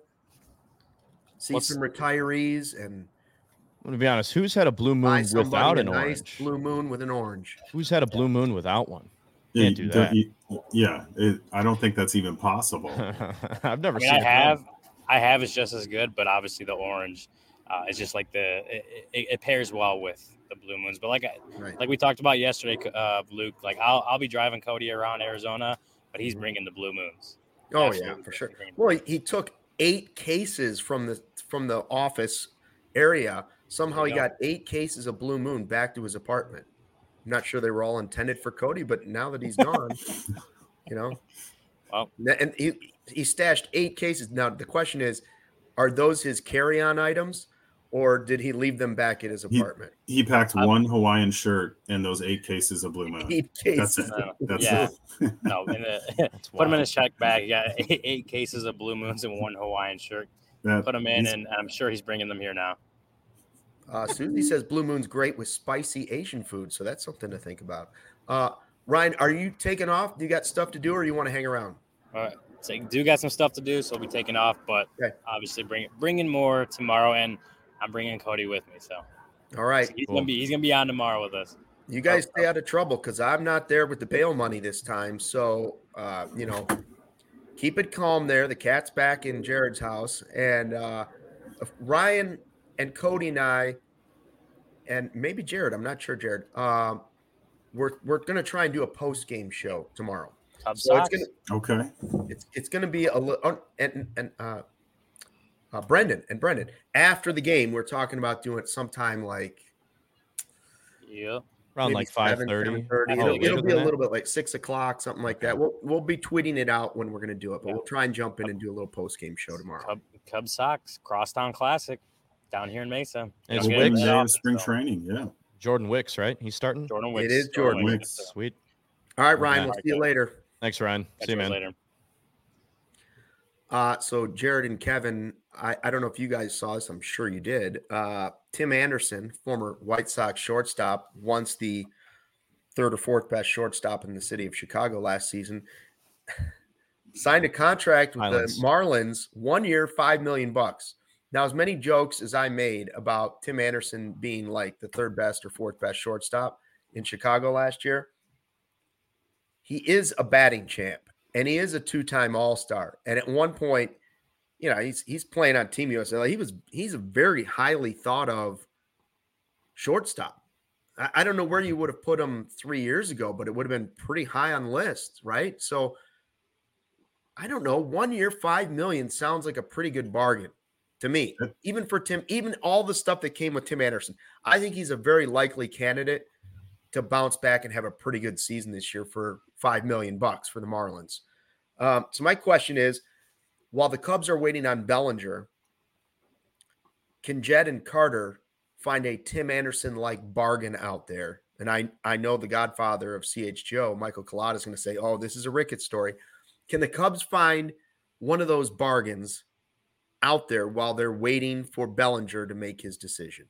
see What's- some retirees, and I'm going to be honest. Who's had a blue buy moon somebody without a an nice orange? blue moon with an orange. Who's had a blue moon without one? Yeah, Can't do you that. don't- you- yeah, it, I don't think that's even possible. I've never I mean, seen I it have, done. I have is just as good, but obviously the orange uh, is just like the it, it, it pairs well with the blue moons. But like I, Right. like we talked about yesterday, uh, Luke, like I'll I'll be driving Cody around Arizona, but he's bringing the blue moons. Oh, Absolutely yeah, for sure. bringing- Well, he, he took eight cases from the from the office area. Somehow he Yeah. got eight cases of blue moon back to his apartment. I'm not sure they were all intended for Cody, but now that he's gone, you know, Well, And he, he stashed eight cases. Now, the question is, are those his carry-on items, or did he leave them back at his apartment? He, he packed I'm, one Hawaiian shirt and those eight cases of Blue Moon. Eight cases. That's it. No, That's yeah. it. no, in the, put him in his check bag. He got eight, eight cases of Blue Moons and one Hawaiian shirt. That, put him in, and I'm sure he's bringing them here now. Uh, Susie says Blue Moon's great with spicy Asian food, so that's something to think about. Uh, Ryan, are you taking off? Do you got stuff to do, or you want to hang around? All right. So do got some stuff to do, so we'll be taking off, but okay. obviously bring bringing more tomorrow, and I'm bringing Cody with me. So, all right, so he's cool. gonna be he's gonna be on tomorrow with us. You guys stay out of trouble because I'm not there with the bail money this time. So, uh, you know, keep it calm there. The cat's back in Jared's house, and uh, Ryan and Cody and I, and maybe Jared. I'm not sure, Jared. Um, we're we're gonna try and do a post game show tomorrow. Cubs so it's gonna okay. It's it's gonna be a little and and uh, uh, Brendan and Brendan after the game. We're talking about doing it sometime like yeah around like five thirty. It'll, it'll be a little bit like six o'clock, something like that. We'll we'll be tweeting it out when we're gonna do it, but yeah. we'll try and jump in and do a little post game show tomorrow. Cub, Cub Sox Crosstown Classic down here in Mesa. It's a big day of spring so. training. Yeah, Jordan Wicks, right? He's starting. Jordan Wicks. It is Jordan, Jordan Wicks. Wicks. Sweet. All right, Ryan. We'll see you later. Thanks, Ryan. Catch See you, man. Later. Uh, so Jared and Kevin, I, I don't know if you guys saw this. I'm sure you did. Uh, Tim Anderson, former White Sox shortstop, once the third or fourth best shortstop in the city of Chicago last season, signed a contract with Islands. the Marlins, one year, five million bucks. Now, as many jokes as I made about Tim Anderson being like the third best or fourth best shortstop in Chicago last year, he is a batting champ, and he is a two-time All-Star. And at one point, you know, he's he's playing on Team U S A. Like he was he's a very highly thought of shortstop. I, I don't know where you would have put him three years ago, but it would have been pretty high on lists, right? So I don't know. One year, five million sounds like a pretty good bargain to me. Even for Tim, even all the stuff that came with Tim Anderson, I think he's a very likely candidate to bounce back and have a pretty good season this year for five million bucks for the Marlins. Um, so my question is, while the Cubs are waiting on Bellinger, can Jed and Carter find a Tim Anderson-like bargain out there? And I, I know the godfather of C H G O, Michael Collada, is going to say, oh, this is a Ricketts story. Can the Cubs find one of those bargains out there while they're waiting for Bellinger to make his decision?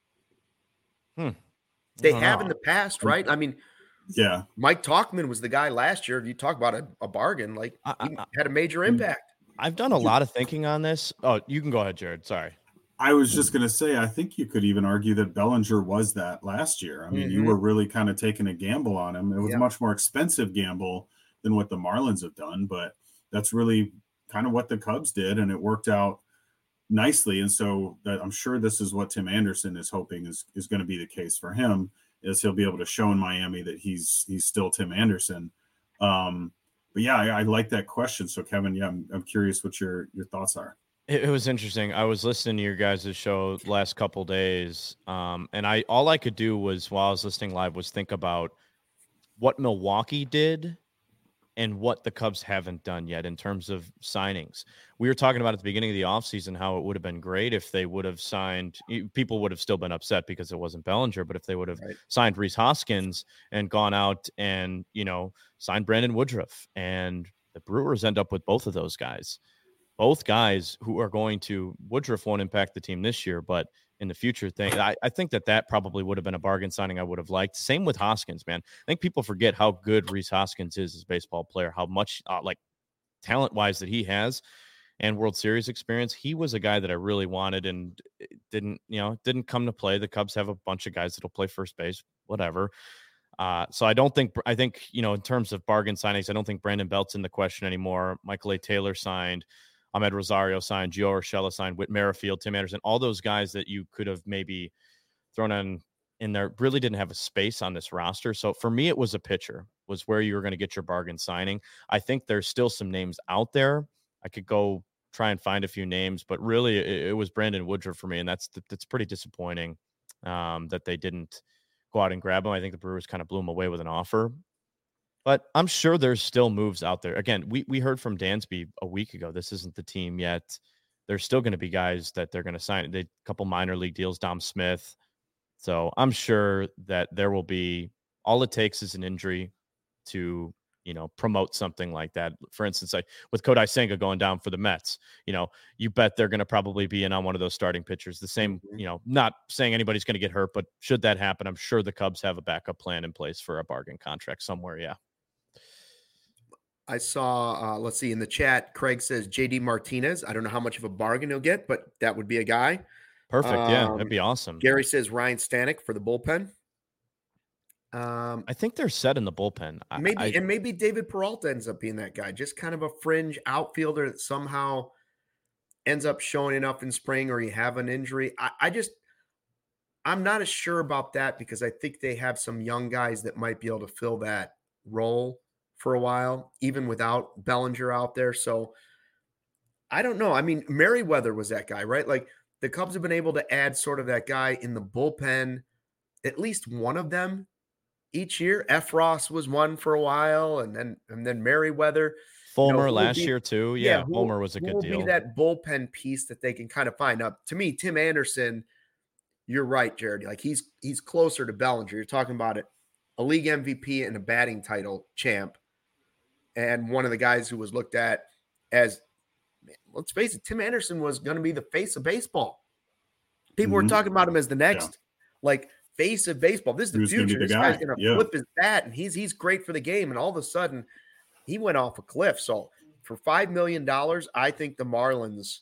Hmm. They have in the past, right? I mean, yeah. Mike Tauchman was the guy last year. If you talk about a, a bargain, like he I, I, had a major impact. I've done a lot of thinking on this. Oh, you can go ahead, Jared. Sorry. I was just going to say, I think you could even argue that Bellinger was that last year. I mean, mm-hmm. you were really kind of taking a gamble on him. It was yeah. a much more expensive gamble than what the Marlins have done, but that's really kind of what the Cubs did, and it worked out nicely. And so that I'm sure this is what Tim Anderson is hoping is, is going to be the case for him, is he'll be able to show in Miami that he's he's still Tim Anderson. Um, but yeah, I, I like that question. So Kevin, yeah, I'm, I'm curious what your your thoughts are. It, it was interesting. I was listening to your guys' show the last couple days, um, and I all I could do was while I was listening live was think about what Milwaukee did and what the Cubs haven't done yet in terms of signings. We were talking about at the beginning of the offseason how it would have been great if they would have signed – people would have still been upset because it wasn't Bellinger, but if they would have right. signed Rhys Hoskins and gone out and, you know, signed Brandon Woodruff, and the Brewers end up with both of those guys. Both guys who are going to – Woodruff won't impact the team this year, but – in the future thing. I, I think that that probably would have been a bargain signing I would have liked. Same with Hoskins, man. I think people forget how good Rhys Hoskins is as a baseball player, how much uh, like talent wise that he has and World Series experience. He was a guy that I really wanted and didn't, you know, didn't come to play. The Cubs have a bunch of guys that'll play first base, whatever. Uh, so I don't think, I think, you know, in terms of bargain signings, I don't think Brandon Belt's in the question anymore. Michael A. Taylor signed. Ahmed Rosario signed, Gio Urshela signed, Whit Merrifield, Tim Anderson, all those guys that you could have maybe thrown on in there really didn't have a space on this roster. So for me, it was a pitcher, was where you were going to get your bargain signing. I think there's still some names out there. I could go try and find a few names, but really it, it was Brandon Woodruff for me. And that's, that's pretty disappointing um, that they didn't go out and grab him. I think the Brewers kind of blew him away with an offer. But I'm sure there's still moves out there. Again, we we heard from Dansby a week ago. This isn't the team yet. There's still going to be guys that they're going to sign. They, a couple minor league deals, Dom Smith. So I'm sure that there will be, all it takes is an injury to, you know, promote something like that. For instance, like with Kodai Senga going down for the Mets, you know, you bet they're going to probably be in on one of those starting pitchers. The same, you know, not saying anybody's going to get hurt, but should that happen, I'm sure the Cubs have a backup plan in place for a bargain contract somewhere. Yeah. I saw, uh, let's see, in the chat, Craig says J D Martinez. I don't know how much of a bargain he'll get, but that would be a guy. Perfect. Um, yeah, that'd be awesome. Gary says Ryan Stanek for the bullpen. Um, I think they're set in the bullpen. Maybe I, and maybe David Peralta ends up being that guy, just kind of a fringe outfielder that somehow ends up showing enough in spring, or you have an injury. I, I just, I'm not as sure about that because I think they have some young guys that might be able to fill that role for a while, even without Bellinger out there. So I don't know. I mean, Merriweather was that guy, right? Like the Cubs have been able to add sort of that guy in the bullpen, at least one of them each year. Efros was one for a while, and then and then Merriweather. Fulmer you know, last be, year too. Yeah, yeah who, Fulmer was a who good will deal. Be that bullpen piece that they can kind of find. Up to me, Tim Anderson. You're right, Jared. Like he's he's closer to Bellinger. You're talking about it, a league M V P and a batting title champ, and one of the guys who was looked at as, let's face it, Tim Anderson was going to be the face of baseball. People mm-hmm. were talking about him as the next, yeah. like face of baseball. This is the future. This guy. guy's going to yeah. flip his bat, and he's he's great for the game. And all of a sudden, he went off a cliff. So for five million dollars, I think the Marlins,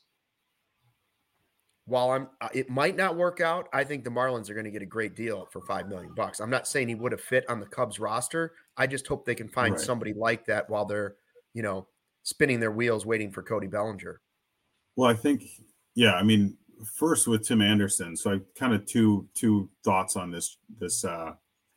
while I'm, it might not work out, I think the Marlins are going to get a great deal for five million bucks. I'm not saying he would have fit on the Cubs roster. I just hope they can find right. somebody like that while they're, you know, spinning their wheels waiting for Cody Bellinger. Well, I think, yeah, I mean, first with Tim Anderson. So I kind of two, two thoughts on this, this, uh,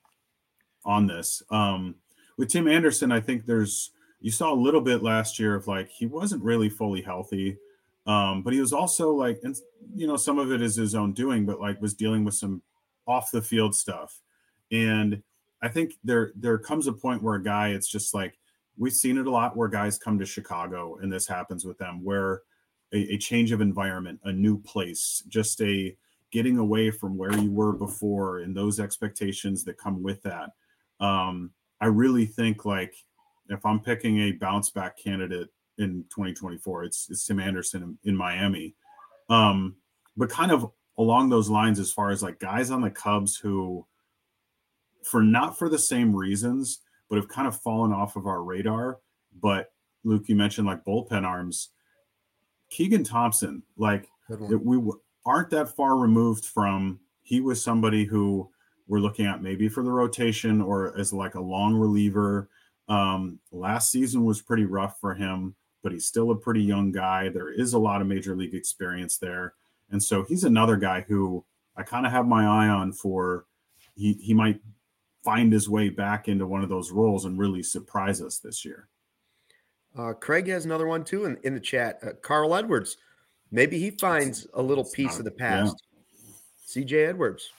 on this, um, with Tim Anderson. I think there's, you saw a little bit last year of like, he wasn't really fully healthy. Um, but he was also like, and you know, some of it is his own doing, but like was dealing with some off the field stuff. And I think there, there comes a point where a guy, it's just like, we've seen it a lot where guys come to Chicago and this happens with them, where a, a change of environment, a new place, just a getting away from where you were before and those expectations that come with that. Um, I really think like if I'm picking a bounce back candidate in twenty twenty-four, it's, it's Tim Anderson in, in Miami. Um, but kind of along those lines, as far as like guys on the Cubs who, for not for the same reasons, but have kind of fallen off of our radar. But Luke, you mentioned like bullpen arms. Keegan Thompson, like it, we w- aren't that far removed from, he was somebody who we're looking at maybe for the rotation or as like a long reliever. Um, last season was pretty rough for him, but he's still a pretty young guy. There is a lot of major league experience there. And so he's another guy who I kind of have my eye on for, he, he might find his way back into one of those roles and really surprise us this year. Uh, Craig has another one too in, in the chat. Uh, Carl Edwards, maybe he finds a little it's piece not, of the past. Yeah. C J Edwards.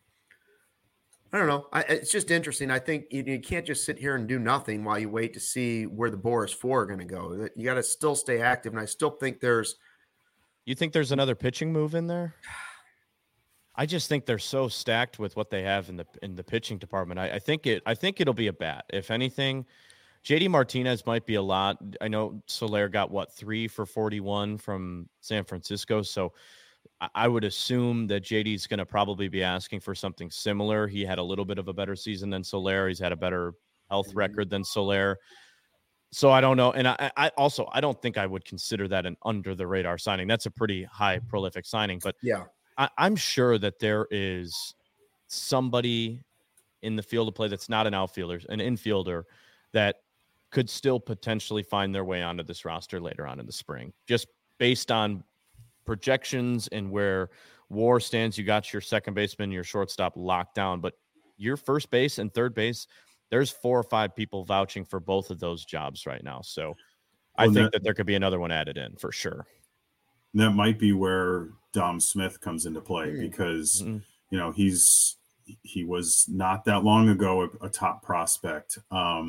I don't know. I, it's just interesting. I think you, you can't just sit here and do nothing while you wait to see where the Boris Four are going to go. You got to still stay active, and I still think there's. You think there's another pitching move in there? I just think they're so stacked with what they have in the in the pitching department. I, I think it. I think it'll be a bat. If anything, J D Martinez might be a lot. I know Soler got what three for forty-one from San Francisco, so I, I would assume that J D's going to probably be asking for something similar. He had a little bit of a better season than Soler. He's had a better health record than Soler. So I don't know. And I, I also, I don't think I would consider that an under the radar signing. That's a pretty high prolific signing, but yeah, I, I'm sure that there is somebody in the field of play that's not an outfielder, an infielder that could still potentially find their way onto this roster later on in the spring, just based on projections and where WAR stands. You got your second baseman, your shortstop locked down, but your first base and third base, there's four or five people vouching for both of those jobs right now. So I well, think that, that there could be another one added in for sure. That might be where Dom Smith comes into play mm-hmm. because, mm-hmm. you know, he's, he was not that long ago a, a top prospect. Um,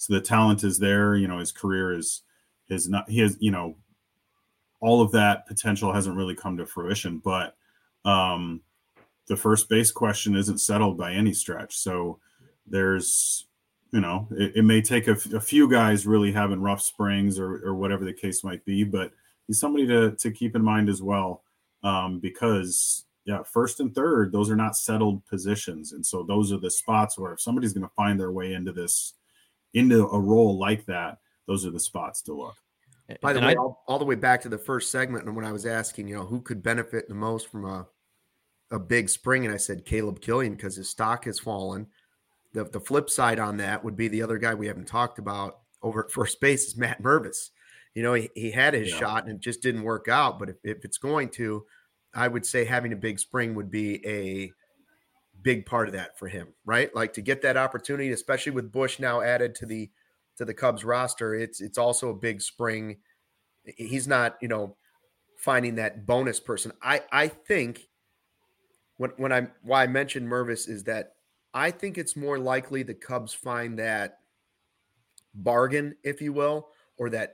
So the talent is there. You know, his career is is not. He has, you know, all of that potential hasn't really come to fruition. But um, the first base question isn't settled by any stretch. So there's, you know, it, it may take a, a few guys really having rough springs or or whatever the case might be, but he's somebody to to keep in mind as well, um, because yeah, first and third, those are not settled positions, and so those are the spots where if somebody's going to find their way into this, into a role like that, those are the spots to look. By the And way, I- all, all the way back to the first segment, and when I was asking, you know, who could benefit the most from a a big spring, and I said Caleb Killian because his stock has fallen. The the flip side on that would be the other guy we haven't talked about over at first base is Matt Mervis. You know, he, he had his Yeah. shot and it just didn't work out. But if, if it's going to, I would say having a big spring would be a big part of that for him, right? Like to get that opportunity, especially with Bush now added to the to the Cubs roster, it's it's also a big spring. He's not, you know, finding that bonus person. I I think when when I why I mentioned Mervis is that I think it's more likely the Cubs find that bargain, if you will, or that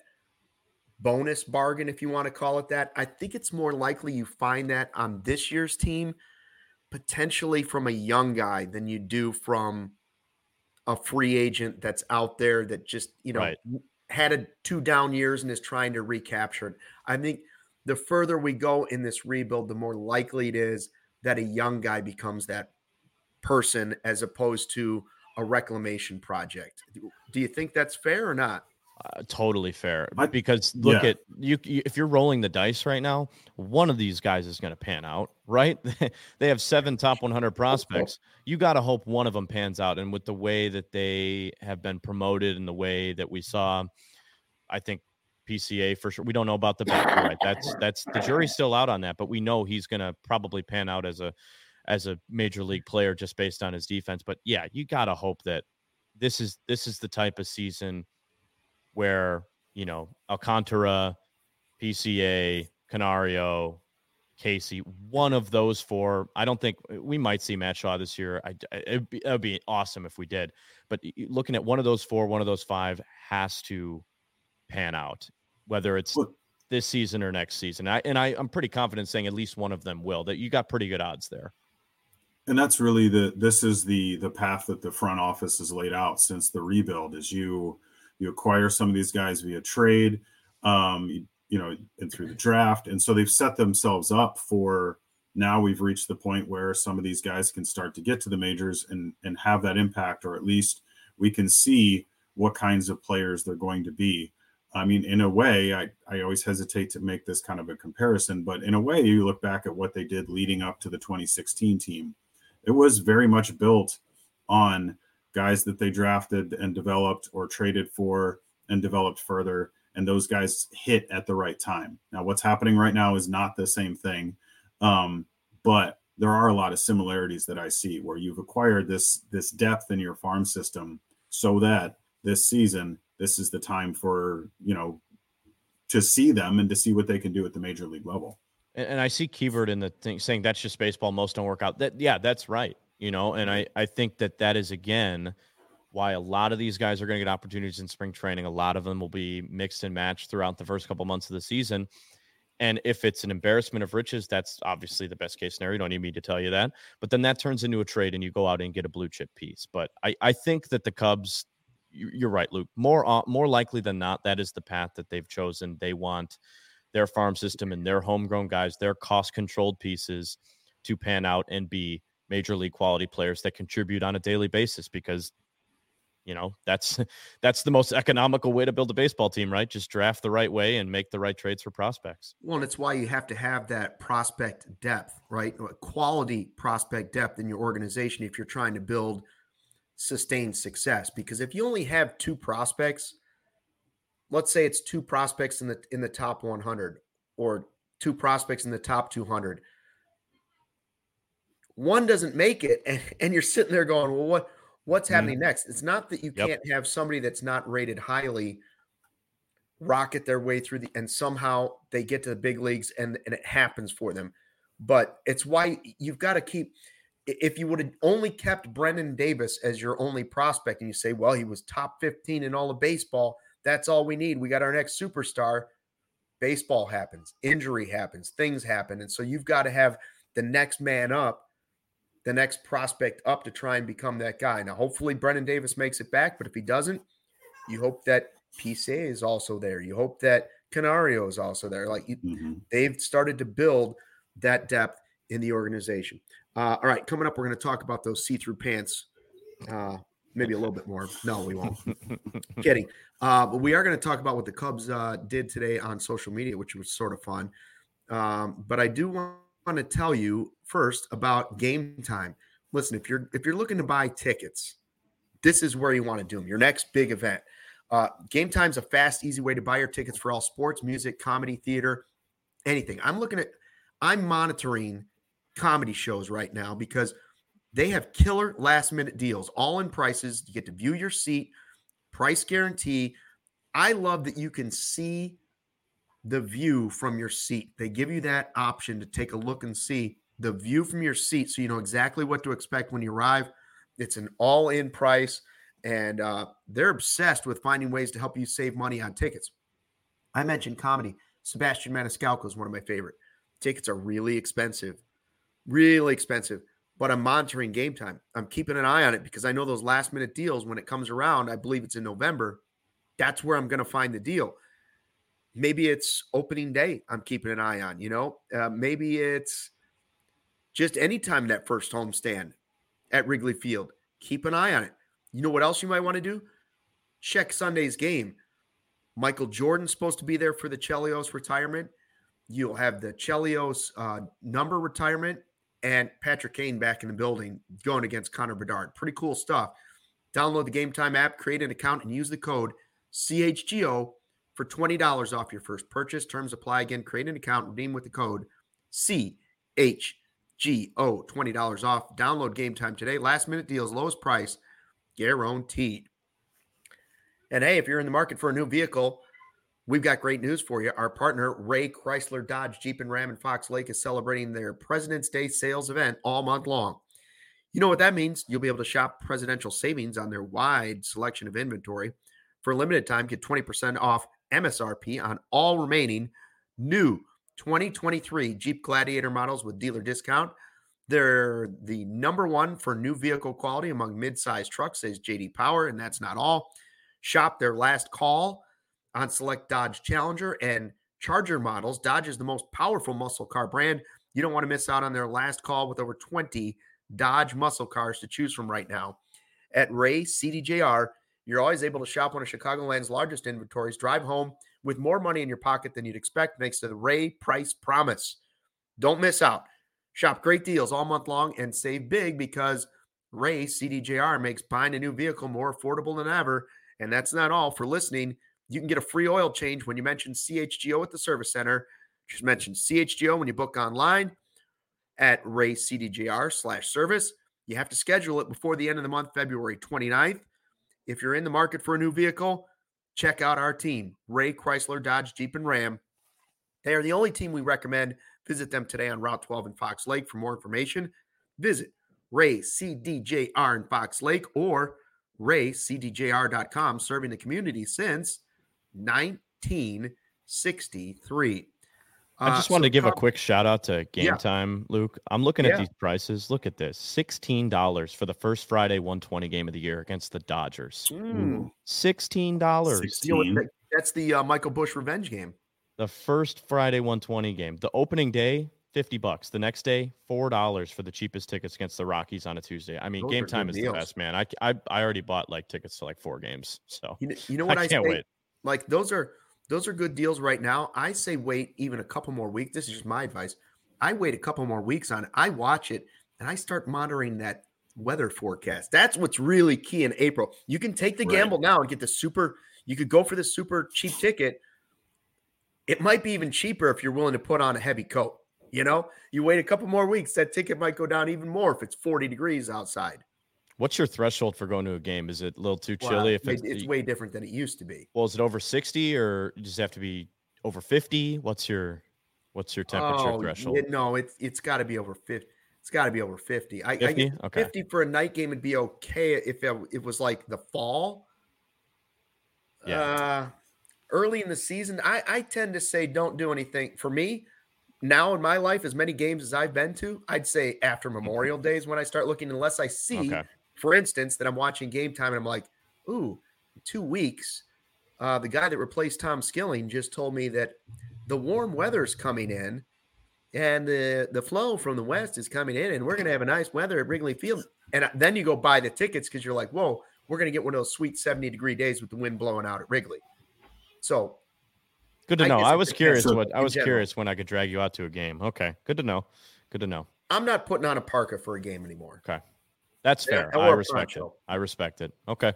bonus bargain, if you want to call it that. I think it's more likely you find that on this year's team, potentially from a young guy, than you do from a free agent that's out there that just, you know, Right. had a two down years and is trying to recapture it. I think the further we go in this rebuild, the more likely it is that a young guy becomes that person as opposed to a reclamation project. Do you think that's fair or not? Uh, totally fair, I- because look yeah. at you, you. If you're rolling the dice right now, one of these guys is going to pan out, right? They have seven top one hundred prospects. You got to hope one of them pans out. And with the way that they have been promoted and the way that we saw, I think P C A for sure. We don't know about the back, right? That's that's the jury's still out on that, but we know he's going to probably pan out as a as a major league player just based on his defense. But yeah, you got to hope that this is this is the type of season where, you know, Alcantara, P C A, Canario, Casey, one of those four. I don't think we might see Matt Shaw this year. I, it'd, be, it'd be awesome if we did. But looking at one of those four, one of those five has to pan out, whether it's Look, this season or next season. I, and I, I'm pretty confident saying at least one of them will. That you got pretty good odds there. and that's really the this is the the path that the front office has laid out since the rebuild. Is you you acquire some of these guys via trade, um, you, you know, and through the draft, and so they've set themselves up for now. We've reached the point where some of these guys can start to get to the majors and and have that impact, or at least we can see what kinds of players they're going to be. I mean, in a way, I, I always hesitate to make this kind of a comparison, but in a way, you look back at what they did leading up to the twenty sixteen team. It was very much built on guys that they drafted and developed or traded for and developed further, and those guys hit at the right time. Now, what's happening right now is not the same thing, um, but there are a lot of similarities that I see where you've acquired this this depth in your farm system so that this season, this is the time for, you know, to see them and to see what they can do at the major league level. And, and I see Keyword in the thing saying that's just baseball. Most don't work out. That yeah, that's right. You know, and I, I think that that is, again, why a lot of these guys are going to get opportunities in spring training. A lot of them will be mixed and matched throughout the first couple months of the season. And if it's an embarrassment of riches, that's obviously the best case scenario. You don't need me to tell you that. But then that turns into a trade and you go out and get a blue chip piece. But I, I think that the Cubs, you're right, Luke, more, uh, more likely than not, that is the path that they've chosen. They want their farm system and their homegrown guys, their cost-controlled pieces to pan out and be major league quality players that contribute on a daily basis, because, you know, that's that's the most economical way to build a baseball team, right? Just draft the right way and make the right trades for prospects. Well, and it's why you have to have that prospect depth, right? Quality prospect depth in your organization if you're trying to build sustained success. Because if you only have two prospects, let's say it's two prospects in the in the top one hundred or two prospects in the top two hundred. One doesn't make it, and, and you're sitting there going, well, what what's happening mm-hmm. next? It's not that you yep. can't have somebody that's not rated highly rocket their way through the, and somehow they get to the big leagues and, and it happens for them. But it's why you've got to keep, if you would have only kept Brendan Davis as your only prospect and you say, well, he was top fifteen in all of baseball, that's all we need. We got our next superstar. Baseball happens, injury happens, things happen. And so you've got to have the next man up, the next prospect up to try and become that guy. Now, hopefully Brendan Davis makes it back, but if he doesn't, you hope that P C A is also there. You hope that Canario is also there. Like Mm-hmm. they've started to build that depth in the organization. Uh, all right, coming up, we're going to talk about those see-through pants. Uh, maybe a little bit more. No, we won't. Kidding. Uh, but we are going to talk about what the Cubs uh, did today on social media, which was sort of fun. Um, but I do want to tell you first about Game Time. Listen, if you're if you're looking to buy tickets, this is where you want to do them. Your next big event. Uh, Game Time's a fast, easy way to buy your tickets for all sports, music, comedy, theater, anything. I'm looking at, I'm monitoring comedy shows right now because they have killer last minute deals, all in prices. You get to view your seat, price guarantee. I love that you can see the view from your seat. They give you that option to take a look and see the view from your seat so you know exactly what to expect when you arrive. It's an all-in price, and uh, they're obsessed with finding ways to help you save money on tickets. I mentioned comedy. Sebastian Maniscalco is one of my favorite. Tickets are really expensive, really expensive, but I'm monitoring Game Time. I'm keeping an eye on it because I know those last-minute deals, when it comes around, I believe it's in November, that's where I'm going to find the deal. Maybe it's opening day I'm keeping an eye on, you know. Uh, maybe it's just any time that first homestand at Wrigley Field. Keep an eye on it. You know what else you might want to do? Check Sunday's game. Michael Jordan's supposed to be there for the Chelios retirement. You'll have the Chelios uh, number retirement and Patrick Kane back in the building going against Connor Bedard. Pretty cool stuff. Download the Game Time app, create an account, and use the code C H G O for twenty dollars off your first purchase. Terms apply. Again, create an account, redeem with the code C H G O, twenty dollars off. Download Game Time today. Last minute deals, lowest price, guaranteed. And hey, if you're in the market for a new vehicle, we've got great news for you. Our partner, Ray Chrysler Dodge Jeep and Ram in Fox Lake, is celebrating their President's Day sales event all month long. You know what that means? You'll be able to shop presidential savings on their wide selection of inventory. For a limited time, get twenty percent off M S R P on all remaining new twenty twenty-three Jeep Gladiator models with dealer discount. They're the number one for new vehicle quality among mid-sized trucks, says J D Power, and that's not all. Shop their last call on select Dodge Challenger and Charger models. Dodge is the most powerful muscle car brand. You don't want to miss out on their last call with over twenty Dodge muscle cars to choose from right now. At Ray C D J R, you're always able to shop one of Chicagoland's largest inventories. Drive home with more money in your pocket than you'd expect thanks to the Ray Price Promise. Don't miss out. Shop great deals all month long and save big because Ray C D J R makes buying a new vehicle more affordable than ever. And that's not all. For listening, you can get a free oil change when you mention C H G O at the service center. Just mention C H G O when you book online at Ray C D J R slash service. You have to schedule it before the end of the month, February twenty-ninth. If you're in the market for a new vehicle, check out our team, Ray Chrysler Dodge Jeep and Ram. They are the only team we recommend. Visit them today on Route twelve in Fox Lake. For more information, visit Ray C D J R in Fox Lake or ray c d j r dot com, serving the community since nineteen sixty-three. I just uh, wanted so to give Cub- a quick shout out to Game Yeah. Time, Luke. I'm looking Yeah. at these prices. Look at this. sixteen dollars for the first Friday one twenty game of the year against the Dodgers. Mm. sixteen dollars. Six- You know what, that- that's the uh, Michael Busch revenge game. The first Friday one twenty game. The opening day, fifty bucks. The next day, four dollars for the cheapest tickets against the Rockies on a Tuesday. I mean, Those Game are Time good is deals. the best, man. I, I I already bought like tickets to like four games. So You know, you know what I I, can't say? wait. Like those are those are good deals right now. I say wait even a couple more weeks. This is just my advice. I wait a couple more weeks on it. I watch it and I start monitoring that weather forecast. That's what's really key in April. You can take the Right. gamble now and get the super. You could go for the super cheap ticket. It might be even cheaper if you're willing to put on a heavy coat. You know, you wait a couple more weeks, that ticket might go down even more if it's forty degrees outside. What's your threshold for going to a game? Is it a little too Well, chilly? If it- it's, it's way different than it used to be. well, is it over sixty or you just have to be over fifty? What's your what's your temperature Oh, threshold? yeah, no, it's it's got to be over fifty. It's got to be over fifty. I, I fifty? guess Okay. fifty for a night game would be okay if it, it was like the fall. Yeah. Uh, early in the season, I, I tend to say don't do anything. For me, now in my life, as many games as I've been to, I'd say after Memorial Days when I start looking, unless I see, Okay. for instance, that I'm watching Game Time and I'm like, ooh, two weeks. Uh, the guy that replaced Tom Skilling just told me that the warm weather's coming in and the, the flow from the west is coming in and we're going to have a nice weather at Wrigley Field. And then you go buy the tickets because you're like, whoa, we're going to get one of those sweet seventy degree days with the wind blowing out at Wrigley. So good to I know. guess I it was depends curious on- what I in was general. curious when I could drag you out to a game. Okay. Good to know. Good to know. I'm not putting on a parka for a game anymore. Okay. That's Yeah, fair. or I a respect it. poncho. I respect it. Okay.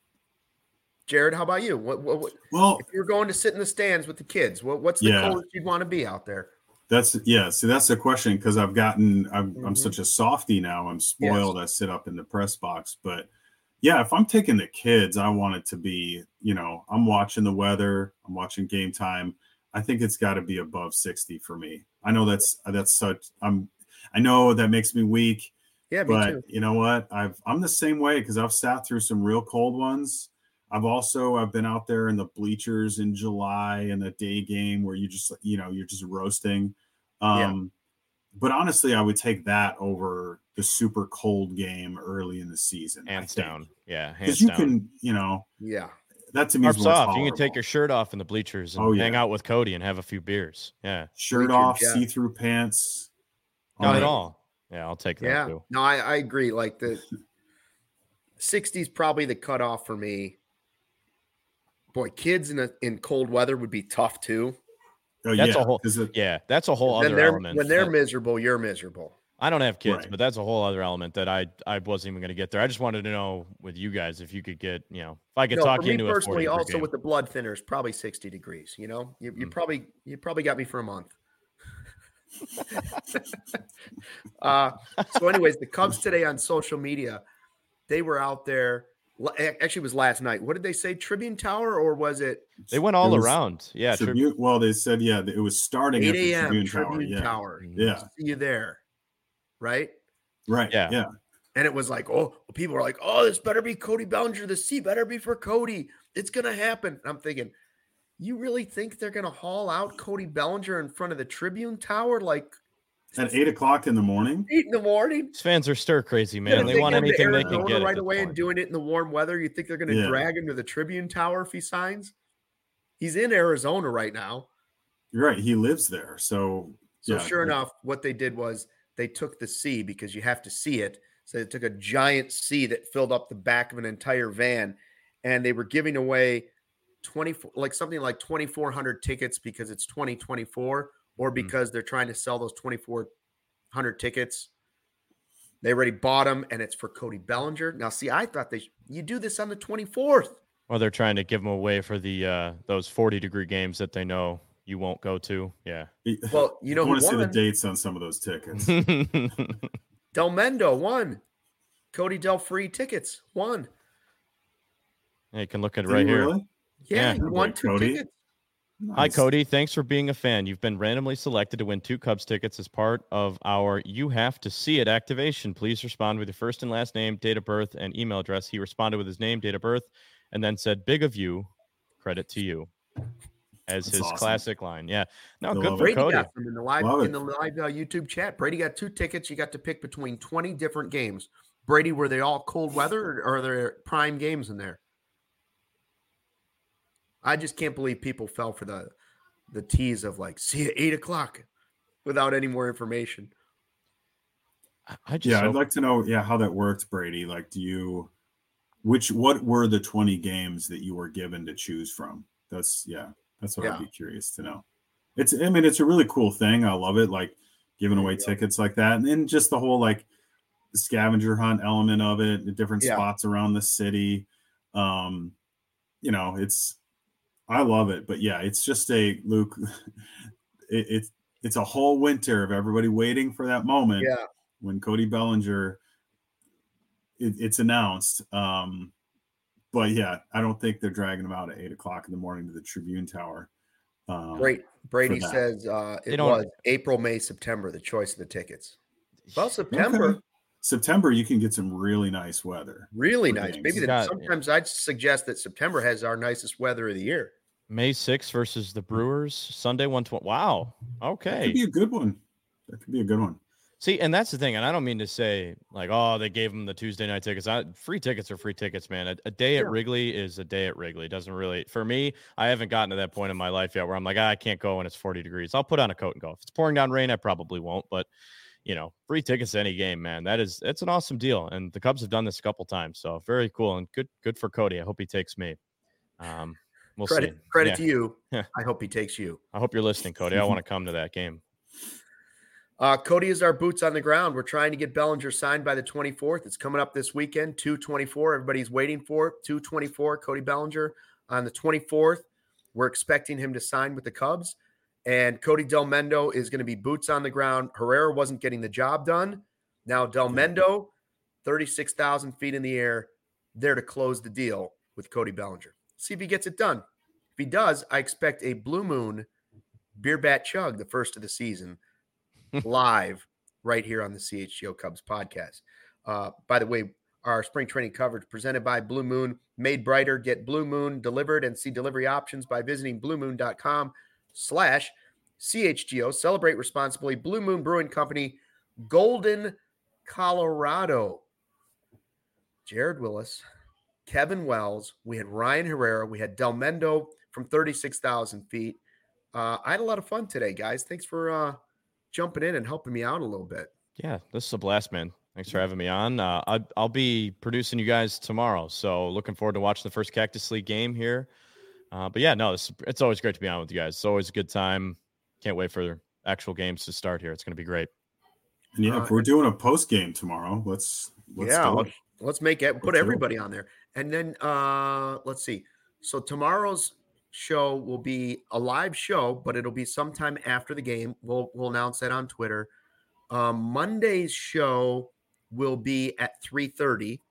Jared, how about you? What, what, what Well, if you're going to sit in the stands with the kids? What, what's the Yeah. coldest you'd want to be out there? that's yeah. See, that's the question because I've gotten I'm I'm Mhm. such a softie now. I'm spoiled. I sit up in the press box, but yeah, if I'm taking the kids, I want it to be. You know, I'm watching the weather. I'm watching Game Time. I think it's got to be above sixty for me. I know that's that's such. I'm. I know that makes me weak. Yeah, me But too. you know what? I've I'm the same way because I've sat through some real cold ones. I've also I've been out there in the bleachers in July in a day game where you just you know you're just roasting. Um, But honestly, I would take that over the super cold game early in the season. I Hands think. down. Yeah. Hands Because you down. can you know Yeah. that to me is Tarps more off. You can tolerable. take your shirt off in the bleachers and Oh, hang yeah. out with Cody and have a few beers. Yeah. shirt Bleacher off, Jeff. see-through pants. Not at right. all. Yeah, I'll take that Yeah. too. No, I, I agree. Like the sixty is probably the cutoff for me. Boy, kids in a, in cold weather would be tough too. Oh, That's yeah, a whole 'cause it- yeah, that's a whole Then other they're, element. when they're that- miserable, you're miserable. I don't have kids, Right. but that's a whole other element that I I wasn't even going to get there. I just wanted to know with you guys if you could get, you know, if I could No, talk for you me into a forty personally, degree also game. with the blood thinners, probably sixty degrees. You know, you, you Mm. probably you probably got me for a month. uh, so, anyways, the Cubs today on social media, they were out there. l- Actually, it was last night. What did they say? Tribune Tower, or was it They went all It was around. Yeah, tri- Tribune. Well, they said yeah, it was starting at eight the a.m. Tribune, Tribune Tower. Tower? Mhm. Yeah, yeah, See you there, right? right. Yeah. Yeah, And it was like, oh, people are like, oh, this better be Cody Bellinger. The C better be for Cody. It's gonna happen. And I'm thinking, you really think they're gonna haul out Cody Bellinger in front of the Tribune Tower like at eight o'clock in the morning. eight in the morning? These fans are stir crazy, You man. think They want going to anything they can Arizona get at right this away and point. doing it in the warm weather. You think they're going to Yeah. drag him to the Tribune Tower if he signs? He's in Arizona right now. You're right. He lives there. So, So yeah, sure that- enough, what they did was they took the C because you have to see it. So they took a giant C that filled up the back of an entire van, and they were giving away twenty-four, like something like twenty-four hundred tickets because it's twenty twenty-four, or because they're trying to sell those twenty-four hundred tickets. They already bought them, and it's for Cody Bellinger. Now, see, I thought they you do this on the twenty-fourth. Or they're trying to give them away for the uh those forty degree games that they know you won't go to. Yeah. Well, you know I who want to see the won? dates on some of those tickets. Del Mendo won. Cody Del Free tickets won. You can look at it Did right he here. really? Yeah, Yeah. he Good won boy, two Cody. tickets. Hi, Nice. Cody. Thanks for being a fan. You've been randomly selected to win two Cubs tickets as part of our You Have to See It activation. Please respond with your first and last name, date of birth, and email address. He responded with his name, date of birth, and then said, big of you, credit to you, as That's his awesome. classic line. Yeah. No, I good love for it. Brady Cody. got them in the live Love in it. the live uh, YouTube chat. Brady got two tickets. You got to pick between twenty different games. Brady, were they all cold weather, or are there prime games in there? I just can't believe people fell for the the tease of like, see you at eight o'clock without any more information. I- I just Yeah, I'd hope- like to know, yeah, how that works, Brady. Like, do you, which, what were the twenty games that you were given to choose from? That's, yeah, that's what Yeah. I'd be curious to know. It's, I mean, it's a really cool thing. I love it. Like giving There away you go. tickets like that. And then just the whole like scavenger hunt element of it, the different Yeah. spots around the city. Um, you know, it's, I love it. But yeah, it's just a, Luke, it, it's, it's a whole winter of everybody waiting for that moment Yeah. when Cody Bellinger it, it's announced. Um, but yeah, I don't think they're dragging him out at eight o'clock in the morning to the Tribune Tower. Um, Great. Brady that. says uh, They it don't- was April, May, September, the choice of the tickets. Well, September. Okay. September, you can get some really nice weather. Really nice. games. Maybe the, Got- sometimes I'd suggest that September has our nicest weather of the year. May sixth versus the Brewers, Sunday one twenty. Wow. That Okay. could be a good one. That could be a good one. See, and that's the thing, and I don't mean to say like, oh, they gave them the Tuesday night tickets. I, free tickets are free tickets, man. A, a day at Yeah. Wrigley is a day at Wrigley. It doesn't really, for me, I haven't gotten to that point in my life yet where I'm like, ah, I can't go when it's forty degrees. I'll put on a coat and go. If it's pouring down rain, I probably won't. But you know, free tickets to any game, man. That is, it's an awesome deal, and the Cubs have done this a couple times, so very cool and good. Good for Cody. I hope he takes me. Um, we'll Credit, see. credit Yeah. to you. Yeah. I hope he takes you. I hope you're listening, Cody. I want to come to that game. Uh, Cody is our boots on the ground. We're trying to get Bellinger signed by the twenty-fourth. It's coming up this weekend, two twenty-four. Everybody's waiting for it. two twenty-four, Cody Bellinger on the twenty-fourth. We're expecting him to sign with the Cubs. And Cody Delmendo is going to be boots on the ground. Herrera wasn't getting the job done. Now Delmendo, thirty-six thousand feet in the air, there to close the deal with Cody Bellinger. See if he gets it done. If he does, I expect a Blue Moon beer bat chug the first of the season live right here on the C H G O Cubs podcast. Uh, by the way, our spring training coverage presented by Blue Moon, made brighter. Get Blue Moon delivered and see delivery options by visiting bluemoon.com slash CHGO. Celebrate responsibly. Blue Moon Brewing Company, Golden, Colorado. Jared Willis, Kevin Wells. We had Ryan Herrera. We had Delmendo from thirty-six thousand feet. Uh, I had a lot of fun today, guys. Thanks for uh, jumping in and helping me out a little bit. Yeah, this is a blast, man. Thanks for having me on. Uh, I'll, I'll be producing you guys tomorrow, so looking forward to watching the first Cactus League game here. Uh, but yeah, no, it's, it's always great to be on with you guys. It's always a good time. Can't wait for actual games to start here. It's going to be great. And yeah, Uh, if we're doing a post game tomorrow, let's let's yeah, do let's, it. let's make it. Put Let's do it. everybody on there, and then uh, let's see. So tomorrow's show will be a live show, but it'll be sometime after the game. We'll we'll announce that on Twitter. Um, Monday's show will be at three thirty,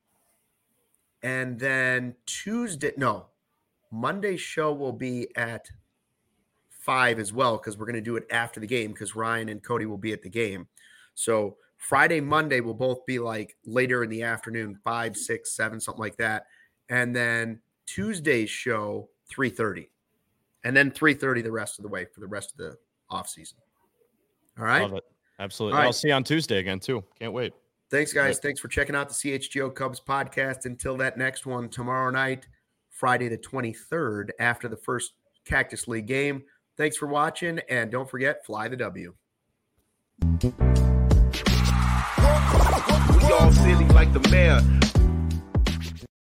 and then Tuesday. No, Monday's show will be at five as well because we're going to do it after the game because Ryan and Cody will be at the game. So Friday, Monday will both be like later in the afternoon, five, six, seven, something like that. And then Tuesday's show, three thirty. And then three thirty the rest of the way for the rest of the off season. All right. Love it. Absolutely. All right. I'll see you on Tuesday again, too. Can't wait. Thanks, guys. Right. Thanks for checking out the C H G O Cubs podcast. Until that next one tomorrow night, Friday the twenty-third, after the first Cactus League game. Thanks for watching, and don't forget, fly the W. We all silly like the mayor.